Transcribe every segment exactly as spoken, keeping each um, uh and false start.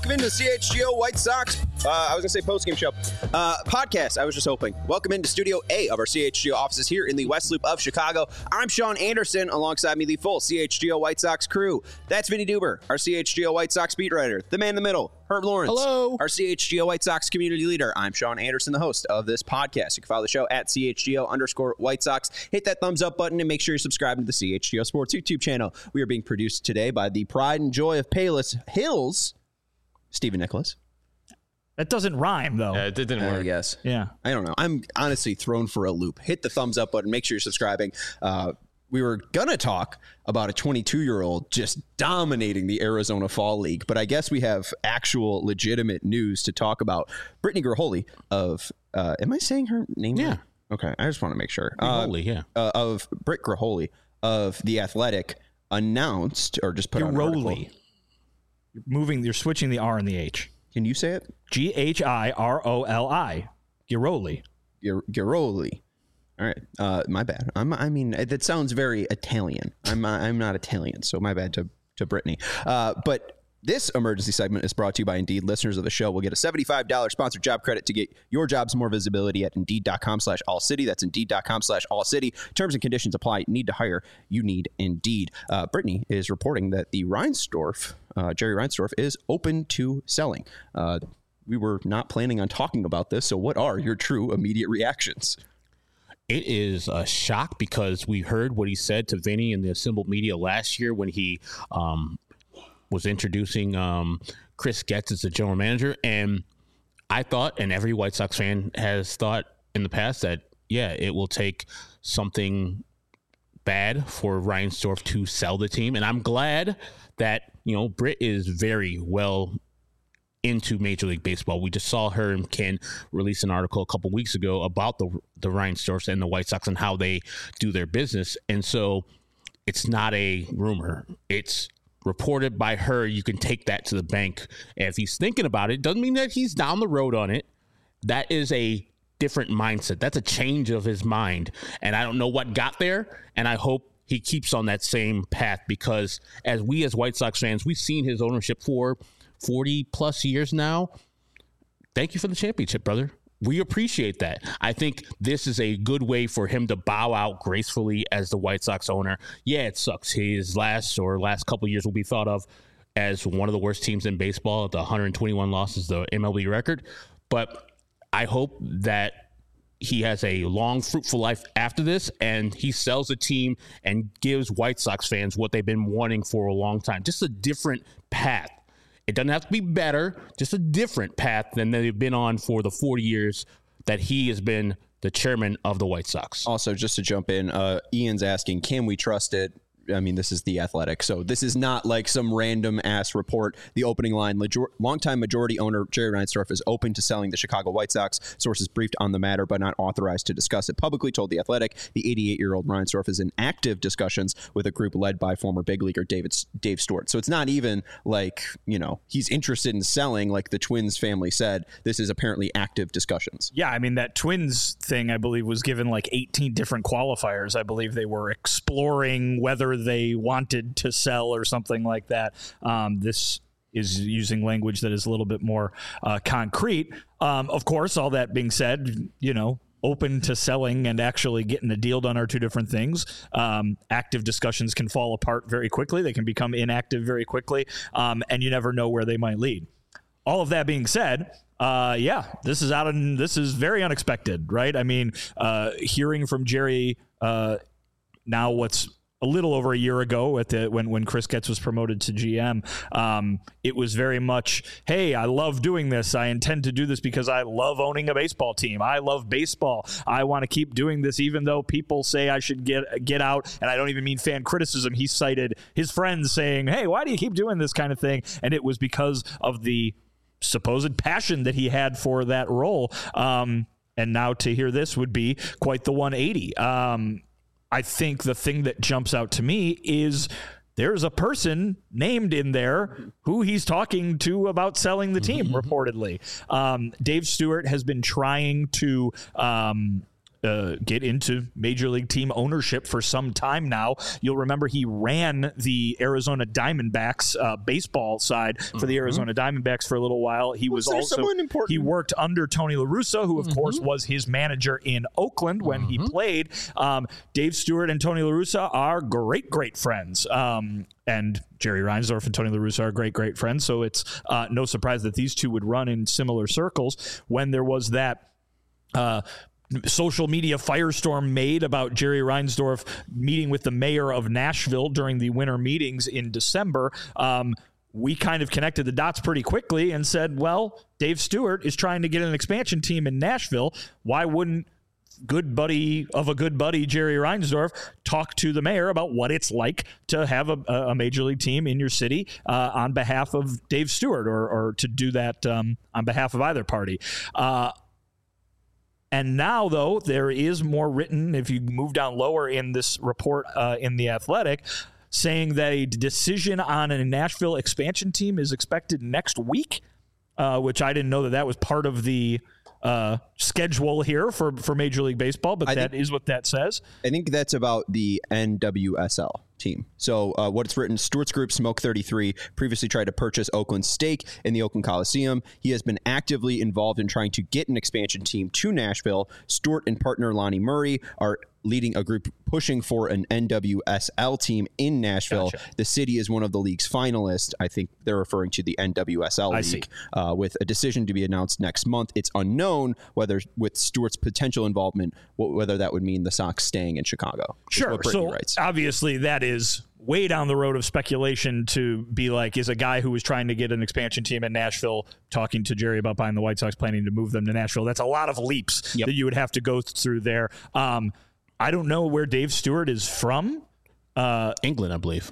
welcome into C H G O White Sox. Uh, I was going to say post-game show. Uh, podcast, I was just hoping. Welcome into Studio A of our C H G O offices here in the West Loop of Chicago. I'm Sean Anderson, alongside me, the full C H G O White Sox crew. That's Vinny Duber, our C H G O White Sox beat writer. The man in the middle, Herb Lawrence. Hello. Our C H G O White Sox community leader. I'm Sean Anderson, the host of this podcast. You can follow the show at C H G O underscore White Sox. Hit that thumbs up button and make sure you're subscribed to the C H G O Sports YouTube channel. We are being produced today by the pride and joy of Payless Hills, Stephen Nicholas. That doesn't rhyme, though. Yeah, it didn't work. I guess. Yeah. I don't know. I'm honestly thrown for a loop. Hit the thumbs up button. Make sure you're subscribing. Uh, we were going to talk about a twenty-two-year-old just dominating the Arizona Fall League, but I guess we have actual legitimate news to talk about. Brittany Graholi of, uh, am I saying her name Yeah. right? Okay. I just want to make sure. Graholi, uh, yeah. Uh, of Britt Graholi of The Athletic announced, or just put on an article. Giroli. You're moving, you're switching the R and the H. Can you say it? G H I R O L I. Giroli. Gir- Giroli. All right. Uh, my bad. I'm, I mean, that sounds very Italian. I'm uh, I'm not Italian, so my bad to, to Brittany. Uh, but this emergency segment is brought to you by Indeed. Listeners of the show will get a seventy-five dollars sponsored job credit to get your jobs more visibility at Indeed.com slash All City. That's Indeed.com slash All City. Terms and conditions apply. Need to hire. You need Indeed. Uh, Brittany is reporting that the Reinsdorf, uh, Jerry Reinsdorf, is open to selling. Uh, we were not planning on talking about this, so what are your true immediate reactions? It is a shock because we heard what he said to Vinny in the assembled media last year when he um, was introducing um, Chris Getz as the general manager. And I thought, and every White Sox fan has thought in the past, that, yeah, it will take something bad for Reinsdorf to sell the team. And I'm glad that, you know, Britt is very well into Major League Baseball. We just saw her and Ken release an article a couple weeks ago about the the Reinsdorfs and the White Sox and how they do their business. And so it's not a rumor. It's reported by her. You can take that to the bank. And if he's thinking about it, doesn't mean that he's down the road on it. That is a different mindset. That's a change of his mind. And I don't know what got there. And I hope he keeps on that same path, because as we as White Sox fans, we've seen his ownership for forty plus years now. Thank you for the championship, brother. We appreciate that. I think this is a good way for him to bow out gracefully as the White Sox owner. Yeah, it sucks. His last or last couple of years will be thought of as one of the worst teams in baseball. The one hundred twenty-one losses, the M L B record. But I hope that he has a long, fruitful life after this, and he sells the team and gives White Sox fans what they've been wanting for a long time. Just a different path. It doesn't have to be better, just a different path than they've been on for the forty years that he has been the chairman of the White Sox. Also, just to jump in, uh, Ian's asking, can we trust it? I mean, this is The Athletic, so this is not like some random ass report. The opening line: major- longtime majority owner Jerry Reinsdorf is open to selling the Chicago White Sox. Sources briefed on the matter but not authorized to discuss it publicly told The Athletic. The eighty-eight-year-old Reinsdorf is in active discussions with a group led by former big leaguer David Dave Stewart. So it's not even like, you know, he's interested in selling like the Twins family said. This is apparently active discussions. Yeah, I mean, that Twins thing, I believe, was given like eighteen different qualifiers. I believe they were exploring whether they wanted to sell or something like that. Um, this is using language that is a little bit more uh, concrete. Um, of course, all that being said, you know, open to selling and actually getting a deal done are two different things. Um, active discussions can fall apart very quickly. They can become inactive very quickly, um, and you never know where they might lead. All of that being said, uh, yeah, this is out of, this is very unexpected, right? I mean, uh, hearing from Jerry uh, now what's a little over a year ago at the when when Chris Getz was promoted to G M, um, it was very much, hey, I love doing this. I intend to do this because I love owning a baseball team. I love baseball. I want to keep doing this even though people say I should get get out. And I don't even mean fan criticism. He cited his friends saying, hey, why do you keep doing this kind of thing? And it was because of the supposed passion that he had for that role. Um, and now to hear this would be quite the one eighty. Um, I think the thing that jumps out to me is there's a person named in there who he's talking to about selling the team, mm-hmm. reportedly. Um, Dave Stewart has been trying to um, uh, get into Major League team ownership for some time now. You'll remember he ran the Arizona Diamondbacks uh, baseball side for the mm-hmm. Arizona Diamondbacks for a little while. He was, was also he worked under Tony La Russa, who of mm-hmm. course was his manager in Oakland when mm-hmm. he played. Um, Dave Stewart and Tony La Russa are great, great friends. Um, and Jerry Reinsdorf and Tony La Russa are great, great friends. So it's uh, no surprise that these two would run in similar circles. When there was that uh, social media firestorm made about Jerry Reinsdorf meeting with the mayor of Nashville during the winter meetings in December, um, we kind of connected the dots pretty quickly and said, well, Dave Stewart is trying to get an expansion team in Nashville. Why wouldn't good buddy of a good buddy, Jerry Reinsdorf, talk to the mayor about what it's like to have a, a major league team in your city uh, on behalf of Dave Stewart, or, or to do that um, on behalf of either party. Uh, And now, though, there is more written, if you move down lower in this report uh, in The Athletic, saying that a decision on a Nashville expansion team is expected next week, uh, which I didn't know that that was part of the uh, schedule here for, for Major League Baseball, but I that think, is what that says. I think that's about the N W S L team. So uh, what it's written, Stewart's Group, Smoke thirty-three, previously tried to purchase Oakland's stake in the Oakland Coliseum. He has been actively involved in trying to get an expansion team to Nashville. Stewart and partner Lonnie Murray are leading a group pushing for an N W S L team in Nashville. Gotcha. The city is one of the league's finalists. I think they're referring to the N W S L I league, uh, with a decision to be announced next month. It's unknown whether, with Stewart's potential involvement, whether that would mean the Sox staying in Chicago. Sure. So writes. Obviously that is way down the road of speculation to be like, is a guy who was trying to get an expansion team in Nashville talking to Jerry about buying the White Sox, planning to move them to Nashville. That's a lot of leaps yep. that you would have to go through there. Um, I don't know where Dave Stewart is from. Uh, England, I believe.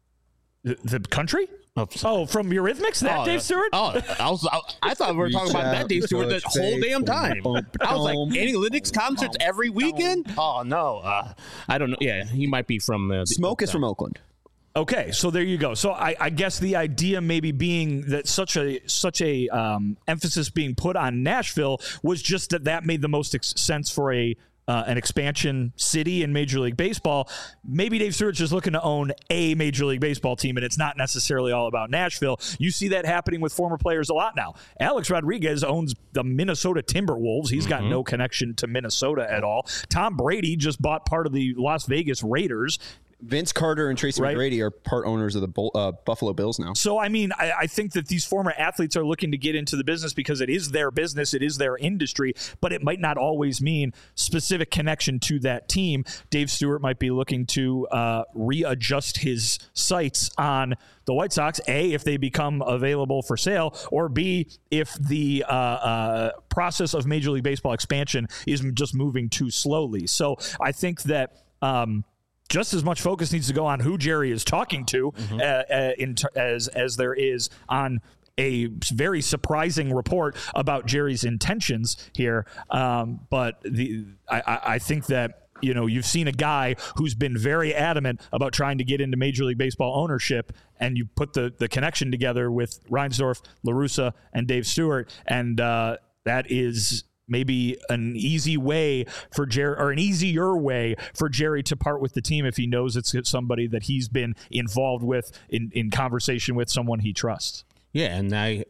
The, the country? Oh, oh, from Eurythmics? That oh, Dave Stewart? Oh, I was. I, I thought we were talking about that Dave Stewart the whole damn time. I was like, analytics concerts every weekend? Oh, no. Uh, I don't know. Yeah, he might be from... Uh, Smoke is from Oakland. Okay, so there you go. So I, I guess the idea maybe being that such a such a um, emphasis being put on Nashville was just that that made the most ex- sense for a uh, an expansion city in Major League Baseball. Maybe Dave Stewart's just looking to own a Major League Baseball team, and it's not necessarily all about Nashville. You see that happening with former players a lot now. Alex Rodriguez owns the Minnesota Timberwolves. He's got mm-hmm. no connection to Minnesota at all. Tom Brady just bought part of the Las Vegas Raiders. Vince Carter and Tracy right. McGrady are part owners of the Bull, uh, Buffalo Bills now. So, I mean, I, I think that these former athletes are looking to get into the business because it is their business, it is their industry, but it might not always mean specific connection to that team. Dave Stewart might be looking to uh, readjust his sights on the White Sox, A, if they become available for sale, or B, if the uh, uh, process of Major League Baseball expansion is just moving too slowly. So I think that... Um, just as much focus needs to go on who Jerry is talking to mm-hmm. uh, uh, in ter- as as there is on a very surprising report about Jerry's intentions here. Um, but the I, I think that, you know, you've seen a guy who's been very adamant about trying to get into Major League Baseball ownership, and you put the, the connection together with Reinsdorf, La Russa, and Dave Stewart, and uh, that is... maybe an easy way for Jerry, or an easier way for Jerry to part with the team if he knows it's somebody that he's been involved with in, in conversation with, someone he trusts. Yeah, and I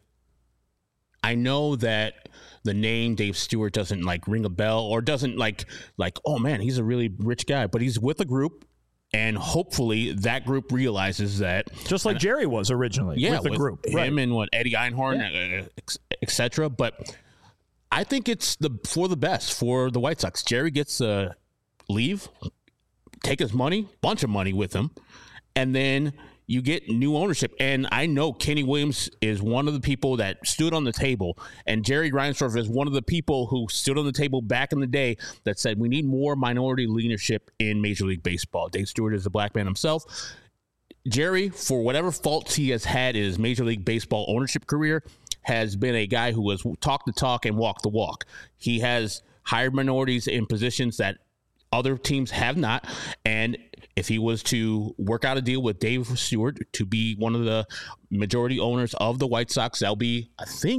I know that the name Dave Stewart doesn't like ring a bell, or doesn't like like oh man, he's a really rich guy, but he's with a group. And hopefully that group realizes that, just like and, Jerry was originally yeah, with the with group, him right. and what Eddie Einhorn, yeah. et cetera. But I think it's the for the best for the White Sox. Jerry gets to uh, leave, take his money, bunch of money with him, and then you get new ownership. And I know Kenny Williams is one of the people that stood on the table, and Jerry Reinsdorf is one of the people who stood on the table back in the day that said we need more minority leadership in Major League Baseball. Dave Stewart is a black man himself. Jerry, for whatever faults he has had in his Major League Baseball ownership career, has been a guy who has talked the talk and walked the walk. He has hired minorities in positions that other teams have not. And if he was to work out a deal with Dave Stewart to be one of the majority owners of the White Sox, that'll be, I think,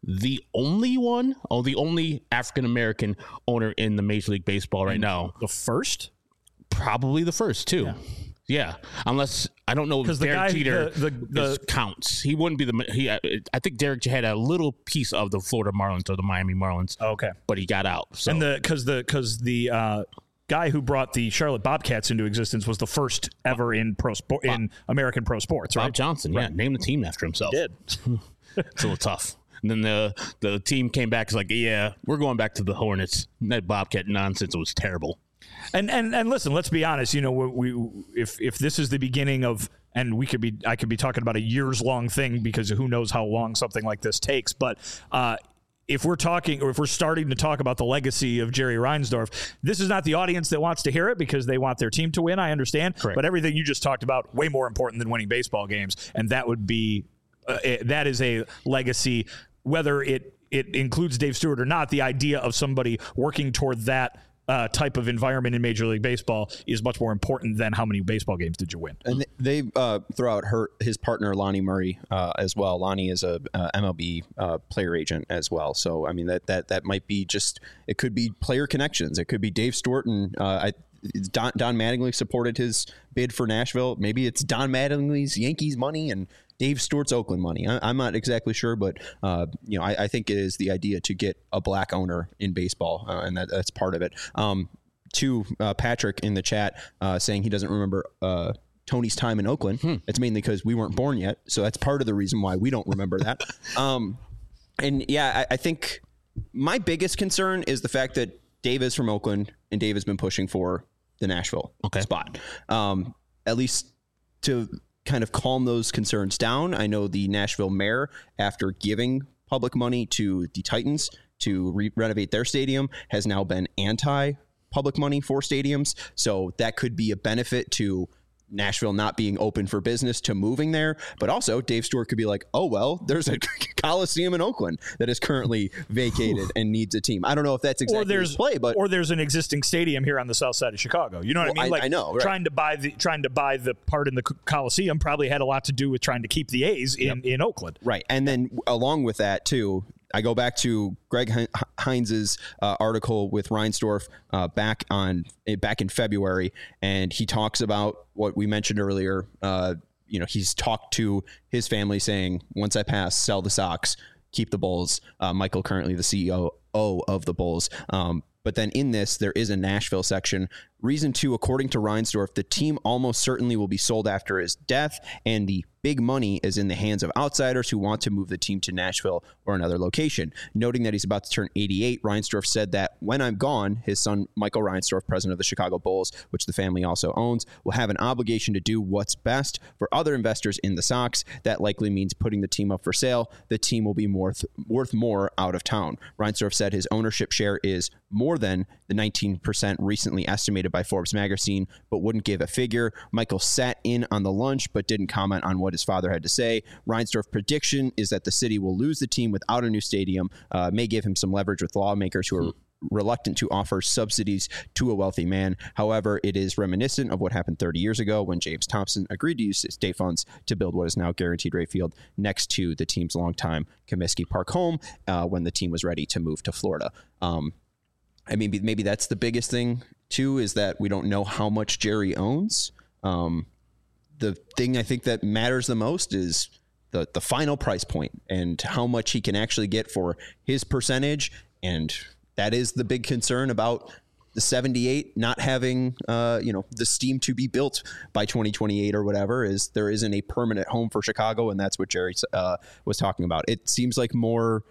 the only one, oh, the only African American owner in the Major League Baseball right now. The first? Probably the first, too. Yeah. Yeah, unless I don't know if Derek guy, Jeter the, the, the, is, counts. He wouldn't be the. He, I think Derek had a little piece of the Florida Marlins or the Miami Marlins. Okay, but he got out. So. And the because the because the uh, guy who brought the Charlotte Bobcats into existence was the first ever in pro sport in American pro sports. Right, Bob Johnson. Yeah, right. Named the team after himself. He did. It's a little tough. And then the the team came back. It's like, yeah, we're going back to the Hornets. That Bobcat nonsense was terrible. And and and listen, let's be honest. You know, we, we if if this is the beginning of, and we could be, I could be talking about a years long thing because who knows how long something like this takes. But uh, if we're talking, or if we're starting to talk about the legacy of Jerry Reinsdorf, this is not the audience that wants to hear it because they want their team to win. I understand, Correct. But everything you just talked about way more important than winning baseball games, and that would be uh, that is a legacy, whether it it includes Dave Stewart or not. The idea of somebody working toward that. Uh, type of environment in Major League Baseball is much more important than how many baseball games did you win. And they, they uh, throw out her his partner Lonnie Murray uh, as well. Lonnie is a uh, M L B uh, player agent as well. So I mean that that that might be just it could be player connections. It could be Dave Stewart and uh, I. Don, Don Mattingly supported his bid for Nashville. Maybe it's Don Mattingly's Yankees money and Dave Stewart's Oakland money. I, I'm not exactly sure, but uh, you know, I, I think it is the idea to get a black owner in baseball, uh, and that, that's part of it. Um, to uh, Patrick in the chat uh, saying he doesn't remember uh, Tony's time in Oakland. Hmm. It's mainly because we weren't born yet, so that's part of the reason why we don't remember that. um, and yeah, I, I think my biggest concern is the fact that Dave is from Oakland, and Dave has been pushing for the Nashville okay. spot. Um, at least to kind of calm those concerns down. I know the Nashville mayor, after giving public money to the Titans to re- renovate their stadium, has now been anti-public money for stadiums. So that could be a benefit to Nashville not being open for business to moving there. But also Dave Stewart could be like, oh, well, there's a Coliseum in Oakland that is currently vacated and needs a team. I don't know if that's exactly or there's, his play, but or there's an existing stadium here on the south side of Chicago. You know what well, I mean? Like I, I know, right. trying to buy the trying to buy the part in the Coliseum probably had a lot to do with trying to keep the A's in, yep. in Oakland. Right. And then along with that, too, I go back to Greg Hines's uh, article with Reinsdorf uh, back on back in February, and he talks about what we mentioned earlier. Uh, you know, he's talked to his family saying, once I pass, sell the Sox, keep the Bulls. Uh, Michael, currently the C E O of the Bulls. Um, but then in this, there is a Nashville section. Reason two, according to Reinsdorf, the team almost certainly will be sold after his death, and the big money is in the hands of outsiders who want to move the team to Nashville or another location. Noting that he's about to turn eighty-eight, Reinsdorf said that when I'm gone, his son, Michael Reinsdorf, president of the Chicago Bulls, which the family also owns, will have an obligation to do what's best for other investors in the Sox. That likely means putting the team up for sale. The team will be worth, worth more out of town. Reinsdorf said his ownership share is more than the nineteen percent recently estimated by Forbes magazine, but wouldn't give a figure. Michael sat in on the lunch, but didn't comment on what his father had to say. Reinsdorf's prediction is that the city will lose the team without a new stadium, uh, may give him some leverage with lawmakers who are reluctant to offer subsidies to a wealthy man. However, it is reminiscent of what happened thirty years ago when James Thompson agreed to use state funds to build what is now Guaranteed Rate Field next to the team's longtime Comiskey Park home uh, when the team was ready to move to Florida. Um, I mean, maybe that's the biggest thing, too, is that we don't know how much Jerry owns. Um, the thing I think that matters the most is the the final price point and how much he can actually get for his percentage. And that is the big concern about the seventy-eight not having, uh, you know, the steam to be built by twenty twenty-eight or whatever, is there isn't a permanent home for Chicago. And that's what Jerry uh, was talking about. It seems like more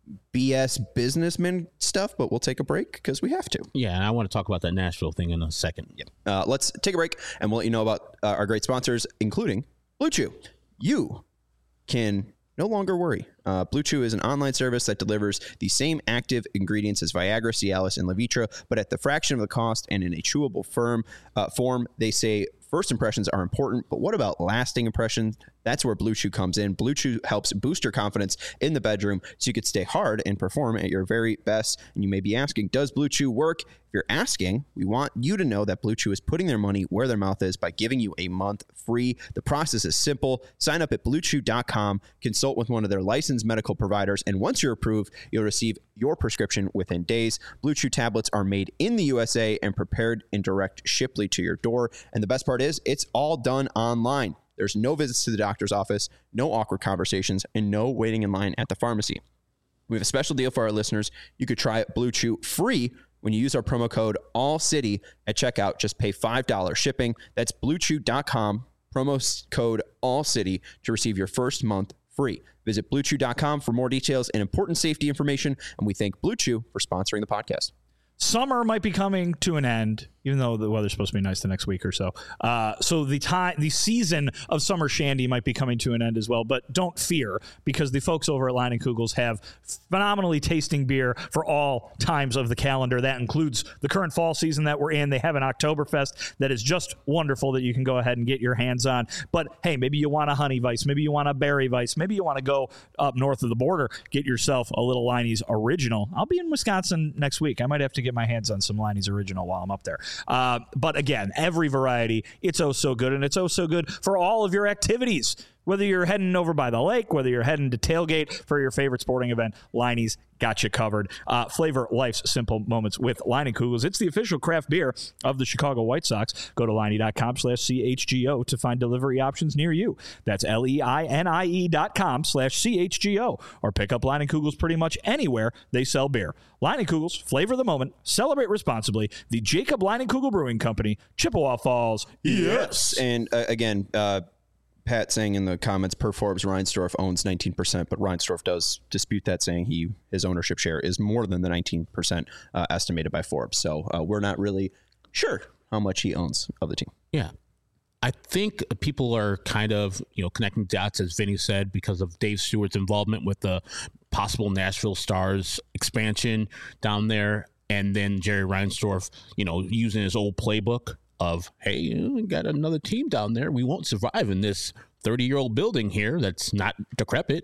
B S businessman stuff, but we'll take a break because we have to. Yeah, and I want to talk about that Nashville thing in a second. Yep. Uh, let's take a break, and we'll let you know about uh, our great sponsors, including Blue Chew. You can no longer worry. Uh, Blue Chew is an online service that delivers the same active ingredients as Viagra, Cialis, and Levitra, but at the fraction of the cost and in a chewable firm uh, form. They say first impressions are important, but what about lasting impressions? That's where Blue Chew comes in. Blue Chew helps boost your confidence in the bedroom so you could stay hard and perform at your very best. And you may be asking, does Blue Chew work? If you're asking, we want you to know that Blue Chew is putting their money where their mouth is by giving you a month free. The process is simple. Sign up at blue chew dot com, consult with one of their licensed medical providers, and once you're approved, you'll receive your prescription within days. Blue Chew tablets are made in the U S A and prepared in direct shiply to your door. And the best part is, it's all done online. There's no visits to the doctor's office, no awkward conversations, and no waiting in line at the pharmacy. We have a special deal for our listeners. You could try Blue Chew free when you use our promo code ALLCITY at checkout. Just pay five dollars shipping. That's blue chew dot com, promo code ALLCITY to receive your first month free. Visit blue chew dot com for more details and important safety information. And we thank Blue Chew for sponsoring the podcast. Summer might be coming to an end, even though the weather's supposed to be nice the next week or so. Uh, so the time, the season of summer shandy might be coming to an end as well. But don't fear, because the folks over at Leinenkugel's have phenomenally tasting beer for all times of the calendar. That includes the current fall season that we're in. They have an Oktoberfest that is just wonderful that you can go ahead and get your hands on. But hey, maybe you want a honey Weiss, maybe you want a berry Weiss, maybe you want to go up north of the border, get yourself a little Leinie's Original. I'll be in Wisconsin next week. I might have to get my hands on some Leinie's Original while I'm up there. Uh, but again, every variety, it's oh so good, and it's oh so good for all of your activities. Whether you're heading over by the lake, whether you're heading to tailgate for your favorite sporting event, Leinie's got you covered. Uh, flavor life's simple moments with Leinenkugel's. It's the official craft beer of the Chicago White Sox. Go to Leinie dot com slash C H G O to find delivery options near you. That's L E I N I E dot com slash C H G O. Or pick up Leinenkugel's pretty much anywhere they sell beer. Leinenkugel's, flavor the moment, celebrate responsibly. The Jacob Leinenkugel Brewing Company, Chippewa Falls. Yes. And uh, again, uh, Pat saying in the comments, per Forbes, Reinsdorf owns nineteen percent, but Reinsdorf does dispute that, saying he his ownership share is more than the nineteen percent uh, estimated by Forbes. So uh, we're not really sure how much he owns of the team. Yeah. I think people are kind of, you know, connecting dots, as Vinny said, because of Dave Stewart's involvement with the possible Nashville Stars expansion down there. And then Jerry Reinsdorf, you know, using his old playbook of, hey, we got another team down there. We won't survive in this thirty-year-old building here that's not decrepit.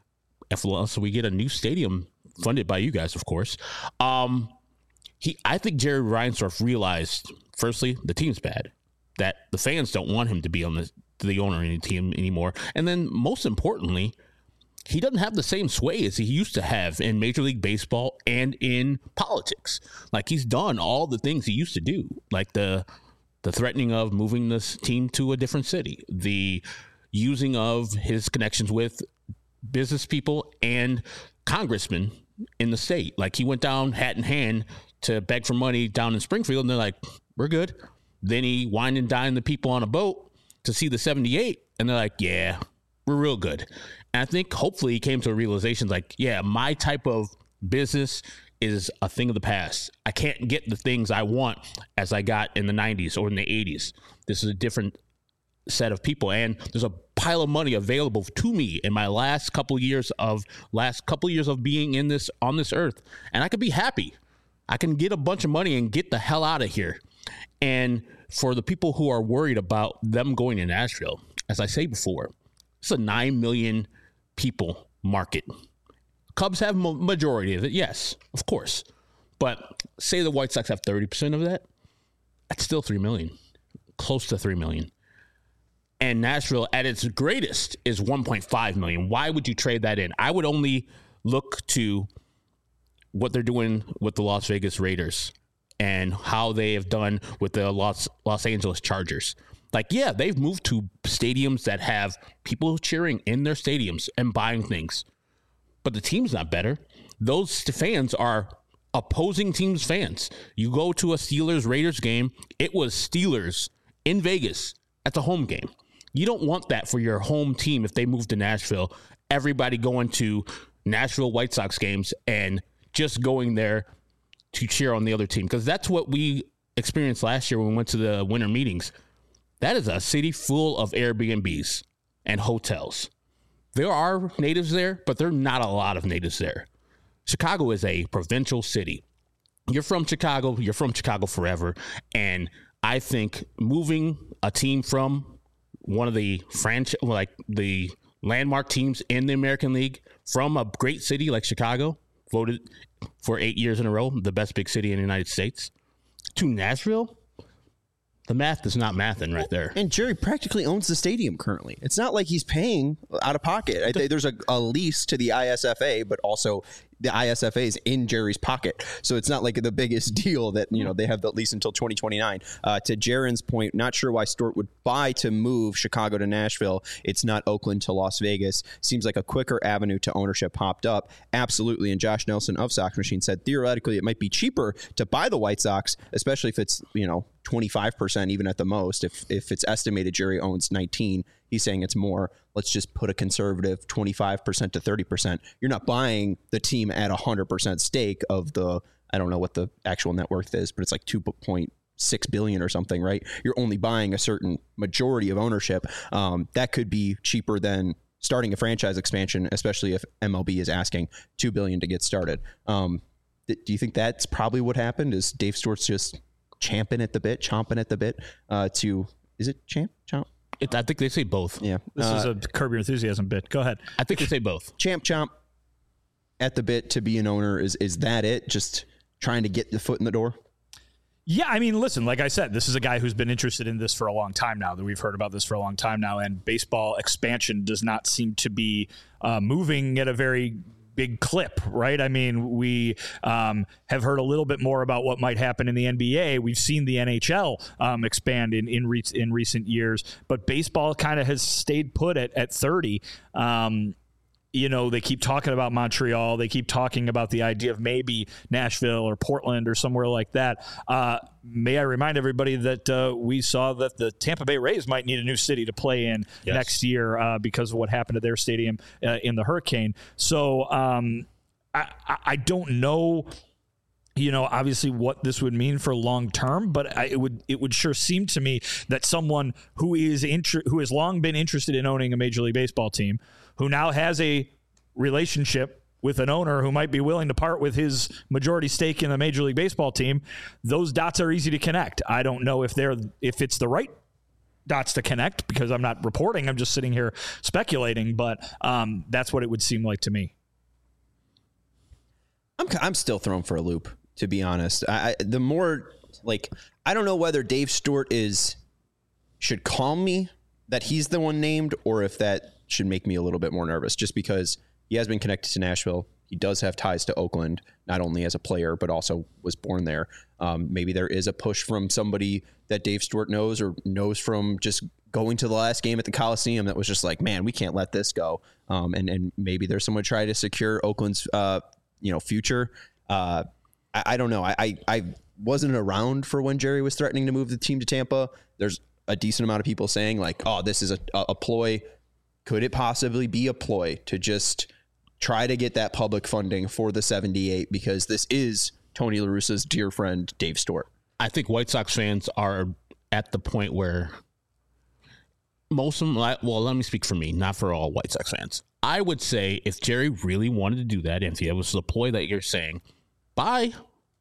Unless we get a new stadium funded by you guys, of course. Um, he, I think Jerry Reinsdorf realized, firstly, the team's bad, that the fans don't want him to be on the, the owner of the team anymore. And then, most importantly, he doesn't have the same sway as he used to have in Major League Baseball and in politics. Like, he's done all the things he used to do, like the the threatening of moving this team to a different city, the using of his connections with business people and congressmen in the state. Like, he went down hat in hand to beg for money down in Springfield, and they're like, we're good. Then he wined and dined the people on a boat to see the seventy-eight, and they're like, yeah, we're real good. And I think hopefully he came to a realization like, yeah, my type of business is a thing of the past. I can't get the things I want as I got in the nineties or in the eighties. This is a different set of people, and there's a pile of money available to me in my last couple of years of last couple of years of being in this on this earth, and I could be happy. I can get a bunch of money and get the hell out of here. And for the people who are worried about them going to Nashville, as I say before, it's a nine million people market. Cubs have a majority of it, yes, of course. But say the White Sox have thirty percent of that, that's still three million, close to three million. And Nashville, at its greatest, is one point five million. Why would you trade that in? I would only look to what they're doing with the Las Vegas Raiders and how they have done with the Los, Los Angeles Chargers. Like, yeah, they've moved to stadiums that have people cheering in their stadiums and buying things. But the team's not better. Those fans are opposing teams' fans. You go to a Steelers-Raiders game, it was Steelers in Vegas at the home game. You don't want that for your home team if they move to Nashville. Everybody going to Nashville White Sox games and just going there to cheer on the other team. Because that's what we experienced last year when we went to the winter meetings. That is a city full of Airbnbs and hotels. There are natives there, but there are not a lot of natives there. Chicago is a provincial city. You're from Chicago, you're from Chicago forever. And I think moving a team from one of the franchise, like the landmark teams in the American League from a great city like Chicago, voted for eight years in a row the best big city in the United States, to Nashville. The math is not mathing right there. And Jerry practically owns the stadium currently. It's not like he's paying out of pocket. I think there's a, a lease to the I S F A, but also the I S F A is in Jerry's pocket. So it's not like the biggest deal that, you know, they have the lease until twenty twenty-nine. Uh, to Jaron's point, not sure why Stewart would buy to move Chicago to Nashville. It's not Oakland to Las Vegas. Seems like a quicker avenue to ownership popped up. Absolutely. And Josh Nelson of Sox Machine said theoretically it might be cheaper to buy the White Sox, especially if it's, you know, twenty-five percent even at the most. If if it's estimated Jerry owns nineteen, he's saying it's more. Let's just put a conservative twenty-five percent to thirty percent. You're not buying the team at one hundred percent stake of the, I don't know what the actual net worth is, but it's like two point six billion or something, right? You're only buying a certain majority of ownership. Um, that could be cheaper than starting a franchise expansion, especially if M L B is asking two billion dollars to get started. Um, th- do you think that's probably what happened? Is Dave Stewart's just champing at the bit, chomping at the bit uh, to, is it champ, chomp? It, I think they say both. Yeah. This uh, is a Curb Your Enthusiasm bit. Go ahead. I think they say both. Champ, chomp at the bit to be an owner. Is is that it? Just trying to get the foot in the door? Yeah, I mean, listen, like I said, this is a guy who's been interested in this for a long time now, that we've heard about this for a long time now, and baseball expansion does not seem to be uh, moving at a very big clip, right? I mean, we um, have heard a little bit more about what might happen in the N B A. We've seen the N H L um, expand in in, re- in recent years, but baseball kind of has stayed put at, at thirty. Um, you know, they keep talking about Montreal. They keep talking about the idea of maybe Nashville or Portland or somewhere like that. Uh, may I remind everybody that uh, we saw that the Tampa Bay Rays might need a new city to play in yes. next year uh, because of what happened to their stadium uh, in the hurricane. So um, I, I don't know, you know, obviously what this would mean for long term, but I, it would it would sure seem to me that someone who is inter- who has long been interested in owning a Major League Baseball team, who now has a relationship with an owner who might be willing to part with his majority stake in the Major League Baseball team, those dots are easy to connect. I don't know if they're if it's the right dots to connect because I'm not reporting. I'm just sitting here speculating, but um, that's what it would seem like to me. I'm I'm still thrown for a loop, to be honest. I, I the more like I don't know whether Dave Stewart is should calm me that he's the one named, or if that should make me a little bit more nervous, just because he has been connected to Nashville. He does have ties to Oakland, not only as a player, but also was born there. Um, maybe there is a push from somebody that Dave Stewart knows or knows from just going to the last game at the Coliseum that was just like, man, we can't let this go. Um, and, and maybe there's someone trying to secure Oakland's uh, you know, future. Uh, I, I don't know. I, I, I wasn't around for when Jerry was threatening to move the team to Tampa. There's a decent amount of people saying like, oh, this is a, a ploy. Could it possibly be a ploy to just try to get that public funding for the seventy-eight? Because this is Tony La Russa's dear friend, Dave Stewart. I think White Sox fans are at the point where most of them, well, let me speak for me, not for all White Sox fans. I would say if Jerry really wanted to do that, if it was the ploy that you're saying, bye.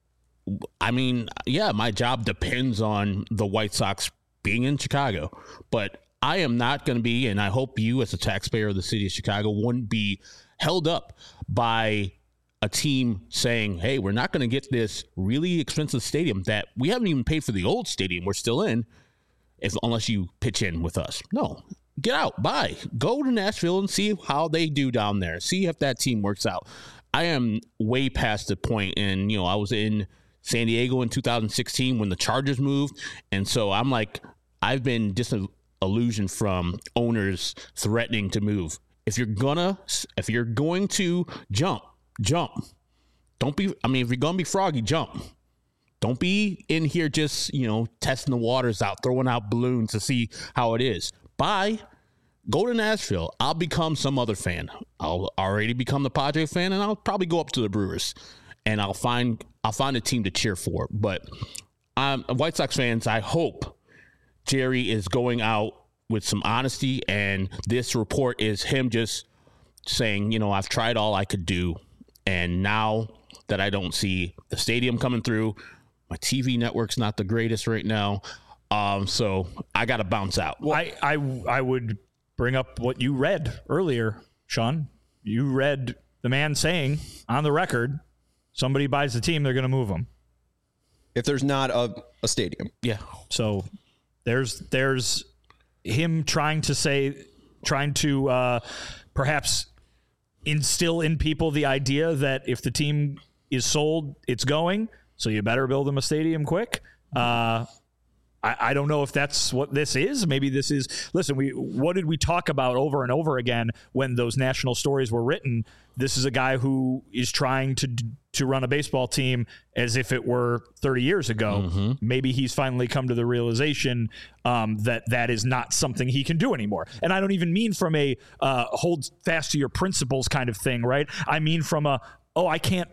I mean, yeah, my job depends on the White Sox being in Chicago, but I am not going to be, and I hope you as a taxpayer of the city of Chicago wouldn't be held up by a team saying, hey, we're not going to get this really expensive stadium that we haven't even paid for the old stadium we're still in, if unless you pitch in with us. No, get out, bye. Go to Nashville and see how they do down there. See if that team works out. I am way past the point, and, you know, I was in San Diego in two thousand sixteen when the Chargers moved, and so I'm like, I've been disillusioned from owners threatening to move. If you're gonna, if you're going to jump, jump. Don't be, I mean, if you're gonna be froggy, jump. Don't be in here just, you know, testing the waters out, throwing out balloons to see how it is. Bye. Go to Nashville. I'll become some other fan. I'll already become the Padre fan, and I'll probably go up to the Brewers, and I'll find I'll find a team to cheer for. But um, White Sox fans, I hope Jerry is going out with some honesty, and this report is him just saying, you know, I've tried all I could do, and now that I don't see the stadium coming through, my T V network's not the greatest right now, Um, so I got to bounce out. Well, I, I, I would bring up what you read earlier, Sean. You read the man saying on the record, somebody buys the team, they're going to move them. If there's not a, a stadium. Yeah. So there's there's him trying to say, trying to uh, perhaps instill in people the idea that if the team is sold, it's going. So you better build them a stadium quick. Uh, I, I don't know if that's what this is. Maybe this is, listen, we what did we talk about over and over again when those national stories were written? This is a guy who is trying to to run a baseball team as if it were thirty years ago. Mm-hmm. Maybe he's finally come to the realization um, that that is not something he can do anymore. And I don't even mean from a uh, hold fast to your principles kind of thing, right? I mean from a, oh, I can't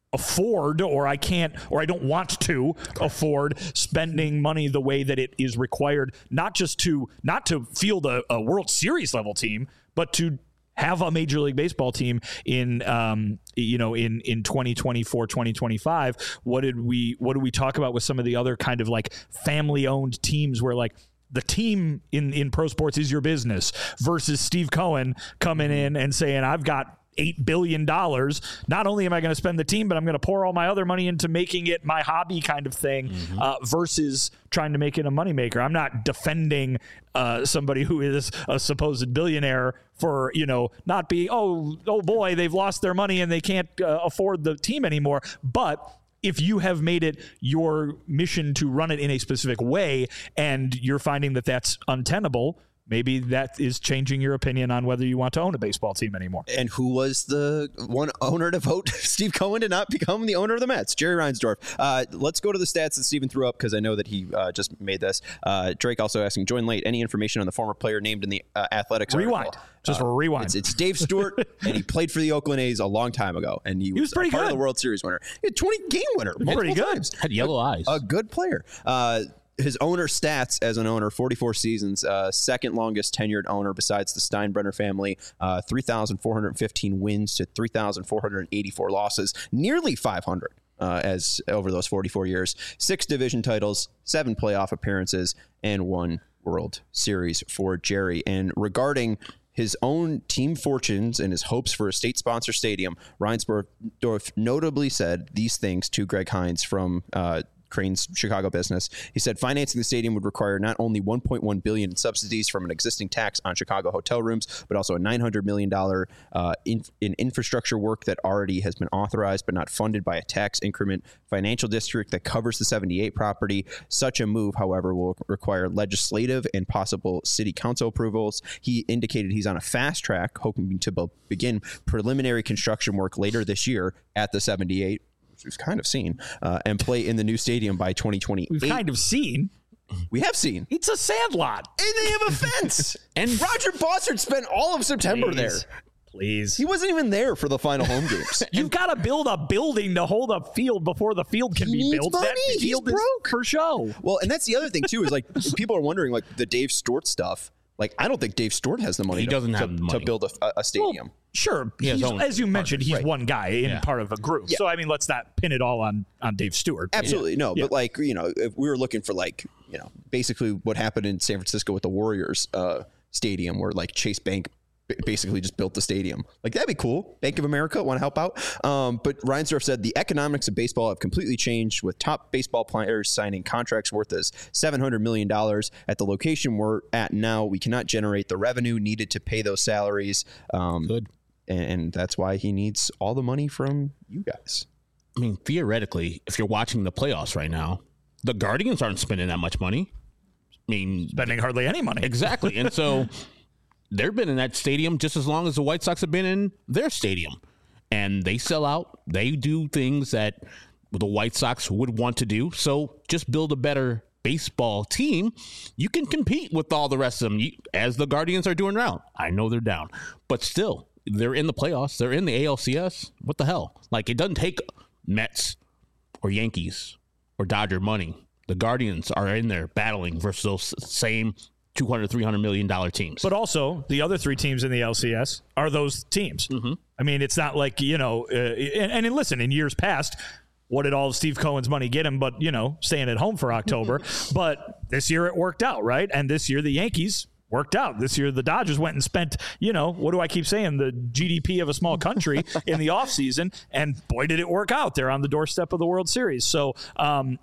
afford or I can't or I don't want to afford spending money the way that it is required, not just to not to field a, a World Series level team, but to have a Major League Baseball team in um you know in in twenty twenty-four, twenty twenty-five. What did we what did we talk about with some of the other kind of like family owned teams where like the team in in pro sports is your business versus Steve Cohen coming in and saying, I've got eight billion dollars. Not only am I going to spend the team, but I'm going to pour all my other money into making it my hobby kind of thing, mm-hmm. uh, versus trying to make it a moneymaker. I'm not defending uh, somebody who is a supposed billionaire for, you know, not being, oh, oh boy, they've lost their money and they can't uh, afford the team anymore. But if you have made it your mission to run it in a specific way and you're finding that that's untenable, maybe that is changing your opinion on whether you want to own a baseball team anymore. And who was the one owner to vote Steve Cohen to not become the owner of the Mets? Jerry Reinsdorf. Uh, let's go to the stats that Steven threw up because I know that he uh, just made this. Uh, Drake also asking, join late, any information on the former player named in the uh, Athletics Rewind. article? Just uh, rewind. It's, it's Dave Stewart, and he played for the Oakland A's a long time ago, and he, he was, was pretty part good. of the World Series winner. He had twenty game winner. Pretty good. Times. Had yellow a, eyes. A good player. Uh, his owner stats as an owner, forty-four seasons, uh, second longest tenured owner besides the Steinbrenner family, uh, three thousand four hundred fifteen wins to three thousand four hundred eighty-four losses, nearly five hundred uh, as over those forty-four years, six division titles, seven playoff appearances, and one World Series for Jerry. And regarding his own team fortunes and his hopes for a state-sponsor stadium, Reinsdorf notably said these things to Greg Hines from uh, Crane's Chicago business. He said financing the stadium would require not only one point one billion dollars in subsidies from an existing tax on Chicago hotel rooms, but also a nine hundred million dollars uh, in, in infrastructure work that already has been authorized but not funded by a tax increment financial district that covers the seventy-eight property. Such a move, however, will require legislative and possible city council approvals. He indicated he's on a fast track, hoping to be- begin preliminary construction work later this year at the seventy-eight, we've kind of seen, uh, and play in the new stadium by twenty twenty-eight. We've kind of seen. We have seen. It's a sandlot. And they have a fence. And Roger Bossard spent all of September Please. there. Please. He wasn't even there for the final home games. You've got to build a building to hold a field before the field can He be needs built. money. That He's field is broke. for show. Well, and that's the other thing, too, is like people are wondering, like the Dave Stewart stuff. Like, I don't think Dave Stewart has the money He to, doesn't to, have the money. to build a, a stadium. Well, sure. He has He's, own as you mentioned, he's Right. one guy in Yeah. part of a group. Yeah. So, I mean, let's not pin it all on, on Dave Stewart. Absolutely. No, Yeah. but like, you know, if we were looking for like, you know, basically what happened in San Francisco with the Warriors uh, stadium where like Chase Bank basically just built the stadium. Like, that'd be cool. Bank of America want to help out. Um, but Reinsdorf said the economics of baseball have completely changed with top baseball players signing contracts worth as seven hundred million dollars. At the location we're at now, we cannot generate the revenue needed to pay those salaries. Um, Good. And, and that's why he needs all the money from you guys. I mean, theoretically, if you're watching the playoffs right now, the Guardians aren't spending that much money. I mean, Spending hardly any money. exactly. And so they've been in that stadium just as long as the White Sox have been in their stadium. And they sell out. They do things that the White Sox would want to do. So just build a better baseball team. You can compete with all the rest of them, you, as the Guardians are doing now. I know they're down. But still, they're in the playoffs. They're in the A L C S. What the hell? Like, it doesn't take Mets or Yankees or Dodger money. The Guardians are in there battling versus those same two hundred, three hundred million dollars teams. But also, the other three teams in the L C S are those teams. Mm-hmm. I mean, it's not like, you know, uh, and, and listen, in years past, what did all of Steve Cohen's money get him? But, you know, staying at home for October. But this year it worked out, right? And this year the Yankees worked out. This year the Dodgers went and spent, you know, what do I keep saying? The G D P of a small country in the offseason. And boy, did it work out. They're on the doorstep of the World Series. So, um,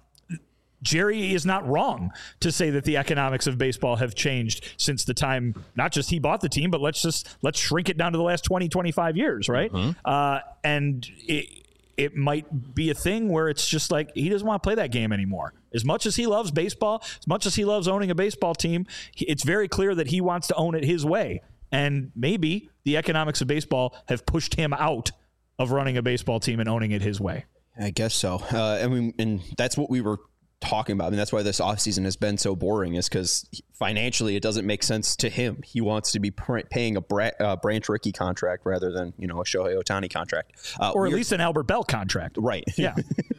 Jerry is not wrong to say that the economics of baseball have changed since the time, not just he bought the team, but let's just, let's shrink it down to the last twenty, twenty-five years, right? Mm-hmm. Uh, and it, it might be a thing where it's just like, he doesn't want to play that game anymore. As much as he loves baseball, as much as he loves owning a baseball team, it's very clear that he wants to own it his way. And maybe the economics of baseball have pushed him out of running a baseball team and owning it his way. I guess so. Uh, I mean, and that's what we were talking about. I mean, that's why this offseason has been so boring, is because financially it doesn't make sense to him. He wants to be pr- paying a Bra- uh, Branch Rickey contract rather than, you know, a Shohei Ohtani contract. Uh, or at least an Albert Bell contract. Right. Yeah.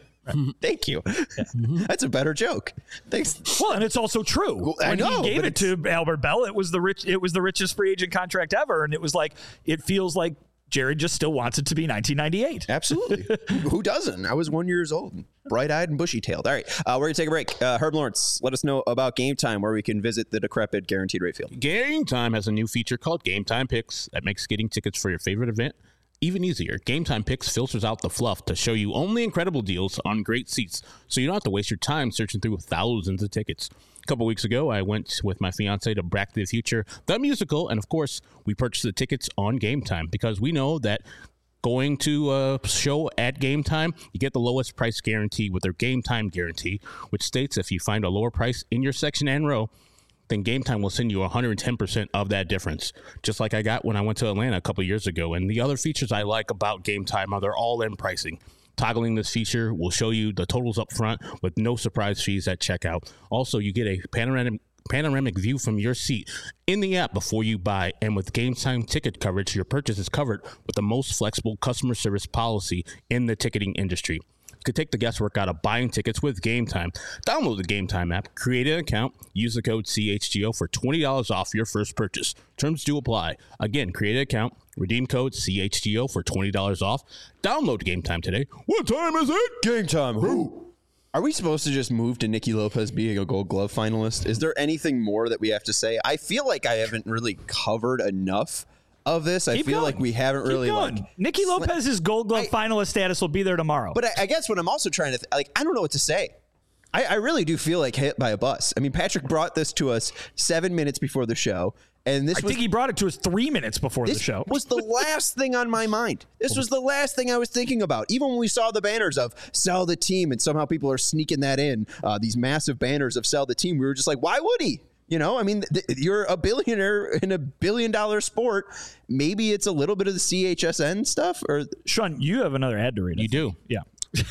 Thank you. Yeah. That's a better joke. Thanks. Well, and it's also true. Well, I when know, he gave it to Albert Bell, it was the rich. It was the richest free agent contract ever, and it was like, it feels like Jared just still wants it to be nineteen ninety-eight. Absolutely. Who doesn't? I was one years old, bright-eyed and bushy-tailed. All right, uh, we're going to take a break. Uh, Herb Lawrence, let us know about Game Time, where we can visit the decrepit Guaranteed Rate Field. Game Time has a new feature called Game Time Picks that makes getting tickets for your favorite event even easier. Game Time Picks filters out the fluff to show you only incredible deals on great seats, so you don't have to waste your time searching through thousands of tickets. A couple weeks ago, I went with my fiance to Back to the Future, the musical, and of course, we purchased the tickets on Game Time because we know that going to a show at Game Time, you get the lowest price guarantee with their Game Time guarantee, which states if you find a lower price in your section and row, then Game Time will send you one hundred ten percent of that difference, just like I got when I went to Atlanta a couple years ago. And the other features I like about Game Time are they're all-in pricing. Toggling this feature will show you the totals up front with no surprise fees at checkout. Also, you get a panoramic panoramic view from your seat in the app before you buy. And with Game Time ticket coverage, your purchase is covered with the most flexible customer service policy in the ticketing industry. You could take the guesswork out of buying tickets with Game Time. Download the Game Time app, create an account, use the code C H G O for twenty dollars off your first purchase. Terms do apply. Again, create an account, redeem code C H G O for twenty dollars off. Download Game Time today. What time is it? Game Time. Who? Are we supposed to just move to Nicky Lopez being a Gold Glove finalist? Is there anything more that we have to say? I feel like I haven't really covered enough of this. I Keep feel going. like we haven't Keep really going. like Nicky Lopez's Gold Glove I, finalist status will be there tomorrow. But I, I guess what I'm also trying to th- like, I don't know what to say. I, I really do feel like hit by a bus. I mean, Patrick brought this to us seven minutes before the show, and this I was, think he brought it to us three minutes before this the show. was the last thing on my mind. This was the last thing I was thinking about. Even when we saw the banners of sell the team, and somehow people are sneaking that in, uh, these massive banners of sell the team, we were just like, why would he? You know, I mean, th- you're a billionaire in a billion dollar sport. Maybe it's a little bit of the C H S N stuff. Or Sean, you have another ad to read. You do. Yeah.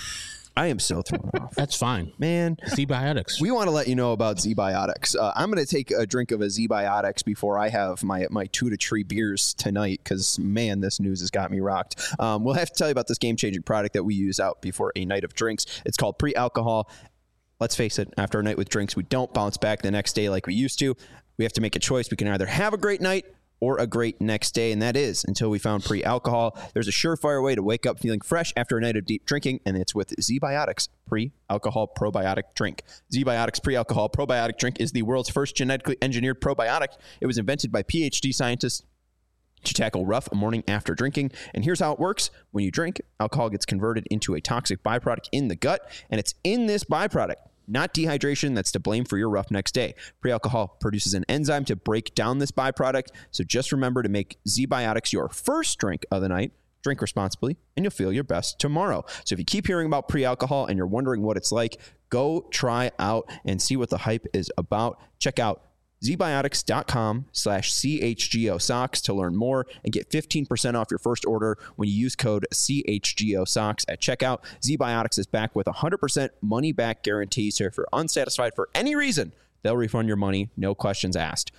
I am so thrown off. That's fine. Man. Z-Biotics. We want to let you know about Z-Biotics. Uh, I'm going to take a drink of a Z-Biotics before I have my my two to three beers tonight because, man, this news has got me rocked. Um, we'll have to tell you about this game-changing product that we use out before a night of drinks. It's called Pre-Alcohol. Let's face it, after a night with drinks, we don't bounce back the next day like we used to. We have to make a choice. We can either have a great night or a great next day, and that is until we found Pre-Alcohol. There's a surefire way to wake up feeling fresh after a night of deep drinking, and it's with Z-Biotics Pre-Alcohol Probiotic Drink. Z-Biotics Pre-Alcohol Probiotic Drink is the world's first genetically engineered probiotic. It was invented by P H D scientists to tackle rough morning after drinking. And here's how it works. When you drink, alcohol gets converted into a toxic byproduct in the gut, and it's in this byproduct, not dehydration, that's to blame for your rough next day. Pre-alcohol produces an enzyme to break down this byproduct, so just remember to make Z-Biotics your first drink of the night. Drink responsibly, and you'll feel your best tomorrow. So if you keep hearing about pre-alcohol and you're wondering what it's like, go try out and see what the hype is about. Check out zbiotics.com slash CHGO socks to learn more and get fifteen percent off your first order when you use code C H G O socks at checkout. Z-Biotics is back with a one hundred percent money back guarantee. So if you're unsatisfied for any reason, they'll refund your money. No questions asked.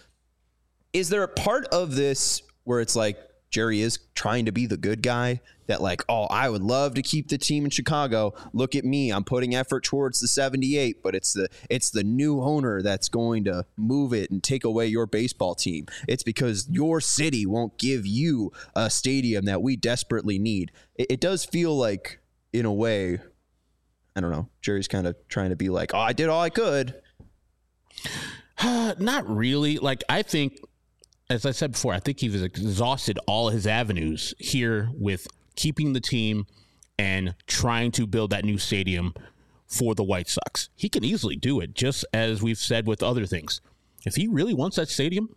Is there a part of this where it's like Jerry is trying to be the good guy that like, oh, I would love to keep the team in Chicago. Look at me. I'm putting effort towards the seventy-eight, but it's the it's the new owner that's going to move it and take away your baseball team. It's because your city won't give you a stadium that we desperately need. It, it does feel like, in a way, I don't know. Jerry's kind of trying to be like, oh, I did all I could. Uh, not really. Like, I think, as I said before, I think he's exhausted all his avenues here with keeping the team and trying to build that new stadium for the White Sox. He can easily do it, just as we've said with other things. If he really wants that stadium,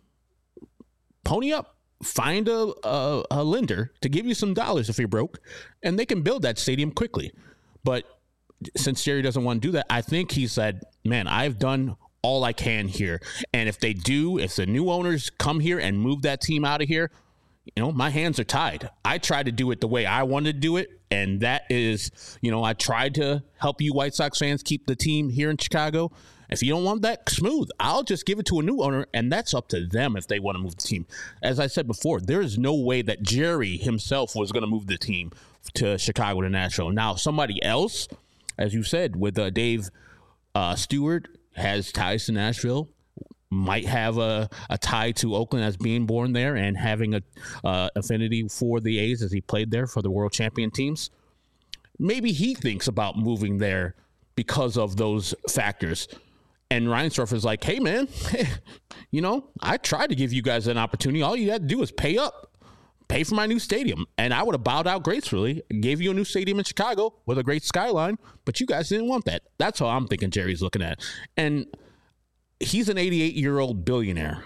pony up. Find a, a, a lender to give you some dollars if you're broke, and they can build that stadium quickly. But since Jerry doesn't want to do that, I think he said, man, I've done all I can here. And if they do, if the new owners come here and move that team out of here, you know, my hands are tied. I tried to do it the way I wanted to do it. And that is, you know, I tried to help you White Sox fans keep the team here in Chicago. If you don't want that smooth, I'll just give it to a new owner, and that's up to them if they want to move the team. As I said before, there is no way that Jerry himself was going to move the team to Chicago to Nashville. Now, somebody else, as you said, with uh, Dave uh, Stewart, has ties to Nashville, might have a, a tie to Oakland as being born there and having a uh, affinity for the A's as he played there for the world champion teams. Maybe he thinks about moving there because of those factors. And Reinsdorf is like, hey, man, you know, I tried to give you guys an opportunity. All you had to do is pay up. Pay for my new stadium, and I would have bowed out gracefully and gave you a new stadium in Chicago with a great skyline, but you guys didn't want that. That's how I'm thinking Jerry's looking at it. And he's an eighty-eight-year-old billionaire.